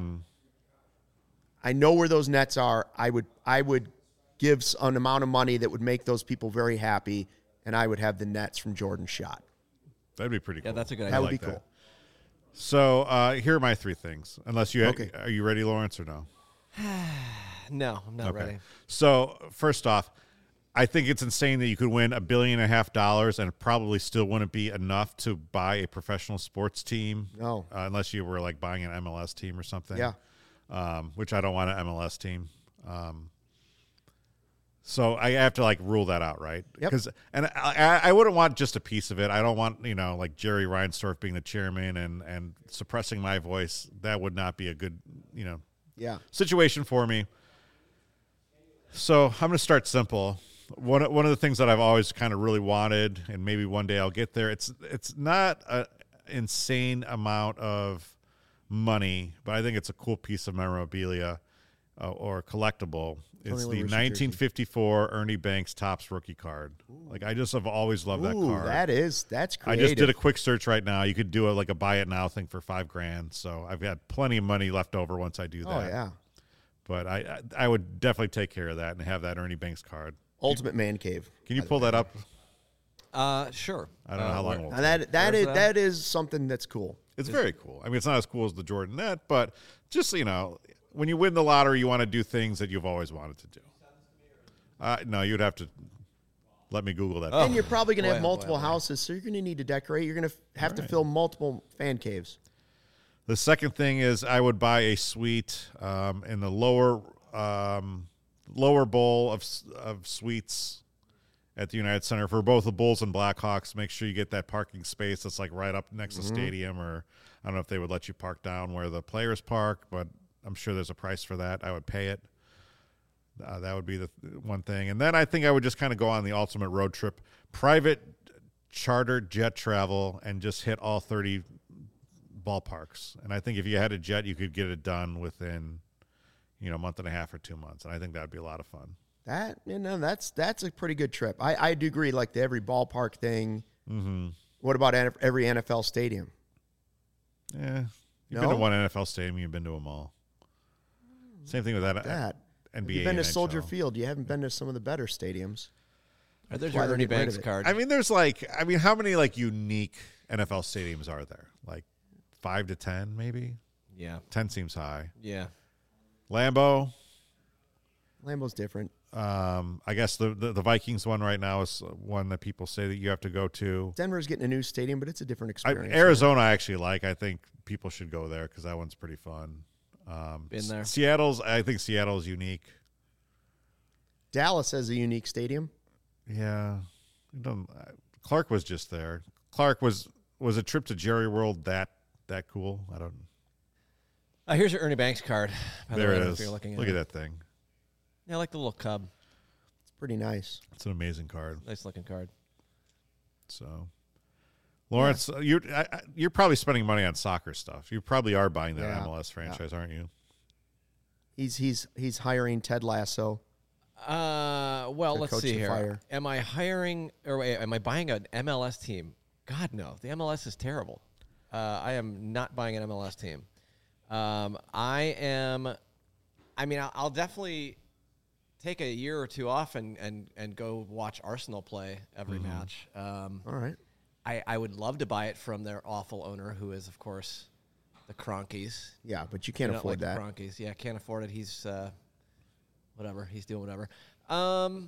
Speaker 2: I know where those Nets are. I would give an amount of money that would make those people very happy, and I would have the Nets from Jordan's shot.
Speaker 1: That'd be pretty cool.
Speaker 3: Yeah, that's a good idea.
Speaker 2: That would be cool.
Speaker 1: So here are my 3 things. Unless you are you ready, Lawrence, or no?
Speaker 3: No, I'm not ready.
Speaker 1: So first off, I think it's insane that you could win $1.5 billion and it probably still wouldn't be enough to buy a professional sports team.
Speaker 2: No,
Speaker 1: unless you were like buying an MLS team or something.
Speaker 2: Yeah.
Speaker 1: Which I don't want an MLS team. So I have to like rule that out, right?
Speaker 2: Yep.
Speaker 1: And I wouldn't want just a piece of it. I don't want, like Jerry Reinsdorf being the chairman and suppressing my voice. That would not be a good, situation for me. So I'm going to start simple. One of the things that I've always kind of really wanted, and maybe one day I'll get there. It's not an insane amount of money, but I think it's a cool piece of memorabilia or collectible. It's the 1954 Ernie Banks Topps rookie card. Ooh. Like I just have always loved that card.
Speaker 2: That's creative.
Speaker 1: I just did a quick search right now. You could do a buy it now thing for $5,000. So I've got plenty of money left over once I do that.
Speaker 2: Oh yeah.
Speaker 1: But I would definitely take care of that and have that Ernie Banks card.
Speaker 2: Ultimate Man Cave.
Speaker 1: Can you pull that up?
Speaker 3: Sure.
Speaker 1: I don't know how long it will
Speaker 2: take. That is something that's cool.
Speaker 1: It's very cool. I mean, it's not as cool as the Jordan net, but just, when you win the lottery, you want to do things that you've always wanted to do. No, you'd have to let me Google that.
Speaker 2: And you're probably going to have multiple houses, so you're going to need to decorate. You're going to have to fill multiple fan caves.
Speaker 1: The second thing is I would buy a suite in the lower bowl of suites at the United Center for both the Bulls and Blackhawks. Make sure you get that parking space that's like right up next to the stadium, or I don't know if they would let you park down where the players park, but I'm sure there's a price for that. I would pay it. That would be the one thing. And then I think I would just kind of go on the ultimate road trip, private charter jet travel, and just hit all 30 ballparks. And I think if you had a jet, you could get it done within, a month and a half or 2 months. And I think that would be a lot of fun.
Speaker 2: That's a pretty good trip. I do agree, like the every ballpark thing.
Speaker 1: Mm-hmm.
Speaker 2: What about every NFL stadium?
Speaker 1: Yeah. You've been to one NFL stadium. You've been to them all. Same thing with that. NBA.
Speaker 2: You've been to
Speaker 1: NHL.
Speaker 2: Soldier Field. You haven't been to some of the better stadiums.
Speaker 3: There's your Ernie Banks card.
Speaker 1: I mean, there's how many unique NFL stadiums are there? 5 to 10, maybe?
Speaker 3: Yeah.
Speaker 1: 10 seems high.
Speaker 3: Yeah.
Speaker 1: Lambeau's
Speaker 2: different.
Speaker 1: I guess the Vikings one right now is one that people say that you have to go to.
Speaker 2: Denver's getting a new stadium, but it's a different experience.
Speaker 1: Arizona, I actually like. I think people should go there because that one's pretty fun.
Speaker 3: Been there.
Speaker 1: I think Seattle's unique.
Speaker 2: Dallas has a unique stadium.
Speaker 1: Yeah. Clark was just there. Clark was a trip to Jerry World that cool? I don't.
Speaker 3: Here's your Ernie Banks card.
Speaker 1: There it
Speaker 3: if
Speaker 1: is.
Speaker 3: You're looking
Speaker 1: Look at that thing.
Speaker 3: Yeah, I like the little cub.
Speaker 2: It's pretty nice.
Speaker 1: It's an amazing card.
Speaker 3: Nice looking card.
Speaker 1: So, Lawrence, you're probably spending money on soccer stuff. You probably are buying that MLS franchise, aren't you?
Speaker 2: He's hiring Ted Lasso.
Speaker 3: Well, let's see here.
Speaker 2: Fire.
Speaker 3: Am I hiring or am I buying an MLS team? God, no. The MLS is terrible. I am not buying an MLS team. I'll definitely take a year or two off and go watch Arsenal play every match.
Speaker 2: All right.
Speaker 3: I would love to buy it from their awful owner, who is, of course, the Kroenkes.
Speaker 2: Yeah, but you can't afford that.
Speaker 3: The Kroenkes. Yeah, can't afford it. He's whatever. He's doing whatever. I'd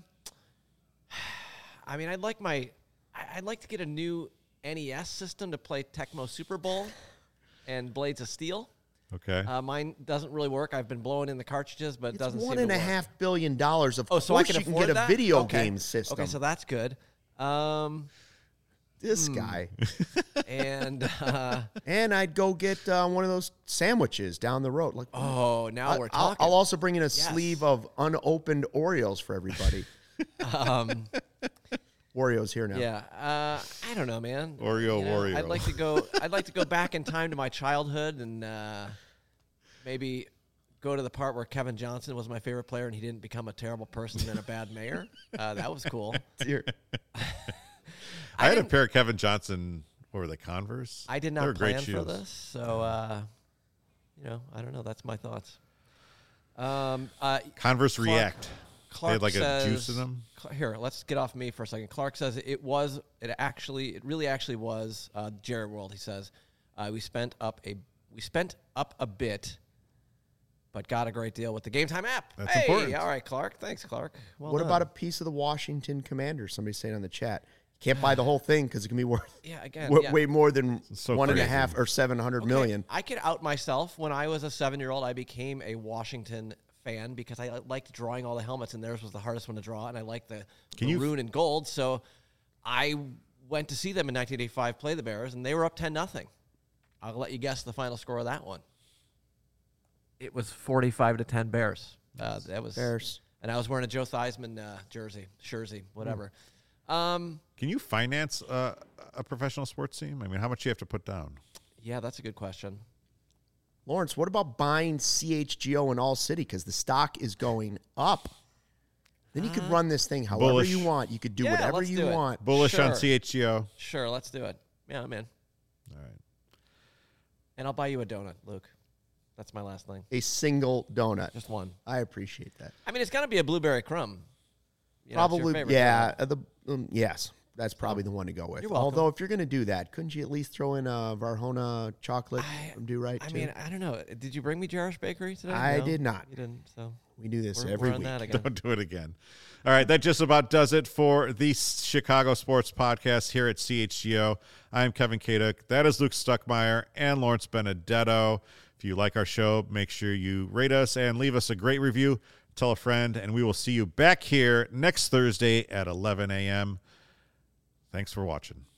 Speaker 3: like to get a new NES system to play Tecmo Super Bowl and Blades of Steel.
Speaker 1: Okay.
Speaker 3: Mine doesn't really work. I've been blowing in the cartridges, but it doesn't seem to work.
Speaker 2: $1.5 billion. Of course,
Speaker 3: so I can
Speaker 2: you can
Speaker 3: afford
Speaker 2: get
Speaker 3: that?
Speaker 2: a video
Speaker 3: Okay.
Speaker 2: game system.
Speaker 3: Okay, so that's good.
Speaker 2: This guy.
Speaker 3: And
Speaker 2: And I'd go get one of those sandwiches down the road. Like,
Speaker 3: now we're talking.
Speaker 2: I'll also bring in a sleeve of unopened Oreos for everybody. Oreos here now.
Speaker 3: Yeah, I don't know, man.
Speaker 1: Oreo.
Speaker 3: I'd like to go back in time to my childhood and maybe go to the part where Kevin Johnson was my favorite player and he didn't become a terrible person and a bad mayor. That was cool.
Speaker 1: I had a pair of Kevin Johnson. What were they, Converse?
Speaker 3: I did
Speaker 1: They were
Speaker 3: not
Speaker 1: great
Speaker 3: plan for
Speaker 1: shoes.
Speaker 3: this, so I don't know. That's my thoughts.
Speaker 1: Converse React.
Speaker 3: Clark
Speaker 1: they had
Speaker 3: says,
Speaker 1: a juice in them.
Speaker 3: Here, let's get off me for a second. Clark says it really actually was Jerry World. He says we spent up a bit, but got a great deal with the Game Time app.
Speaker 1: That's important.
Speaker 3: All right, Clark. Thanks, Clark. Well
Speaker 2: What
Speaker 3: done.
Speaker 2: about a piece of the Washington Commanders? Somebody's saying on the chat. Can't buy the whole thing because it can be worth way more than one and a half or 700 million.
Speaker 3: I could out myself. When I was a 7-year-old, I became a Washington fan because I liked drawing all the helmets, and theirs was the hardest one to draw, and I liked the maroon and gold. So I went to see them in 1985 play the Bears, and they were up 10-0. I'll let you guess the final score of that one. It was 45-10 Bears. That was
Speaker 2: Bears.
Speaker 3: And I was wearing a Joe Theismann jersey, whatever.
Speaker 1: Can you finance a professional sports team? I mean, how much do you have to put down?
Speaker 3: Yeah, that's a good question.
Speaker 2: Lawrence, what about buying CHGO in All City because the stock is going up? Then you could run this thing however
Speaker 1: Bullish.
Speaker 2: you want. You could do whatever
Speaker 3: let's
Speaker 2: you
Speaker 3: do it.
Speaker 2: want.
Speaker 1: Bullish on
Speaker 3: Sure.
Speaker 1: CHGO.
Speaker 3: Sure, let's do it. Yeah, I'm in.
Speaker 1: All right.
Speaker 3: And I'll buy you a donut, Luke. That's my last thing.
Speaker 2: A single donut.
Speaker 3: Just one.
Speaker 2: I appreciate that.
Speaker 3: I mean, it's got to be a blueberry crumb. You know, it's your
Speaker 2: Probably,
Speaker 3: favorite
Speaker 2: yeah.
Speaker 3: donut.
Speaker 2: Yes, that's probably the one to go with.
Speaker 3: You're welcome.
Speaker 2: Although, if you're going to do that, couldn't you at least throw in a Varhona chocolate from Do Right?
Speaker 3: I mean, I don't know. Did you bring me Jarish Bakery today?
Speaker 2: I
Speaker 3: No?
Speaker 2: did not.
Speaker 3: You didn't, so
Speaker 2: We do this
Speaker 3: we're
Speaker 2: every
Speaker 3: on
Speaker 2: week.
Speaker 3: that again.
Speaker 1: Don't do it again. All right, that just about does it for the Chicago Sports Podcast here at CHGO. I'm Kevin Kaduk. That is Luke Stuckmeyer and Lawrence Benedetto. If you like our show, make sure you rate us and leave us a great review. Tell a friend, and we will see you back here next Thursday at 11 a.m. Thanks for watching.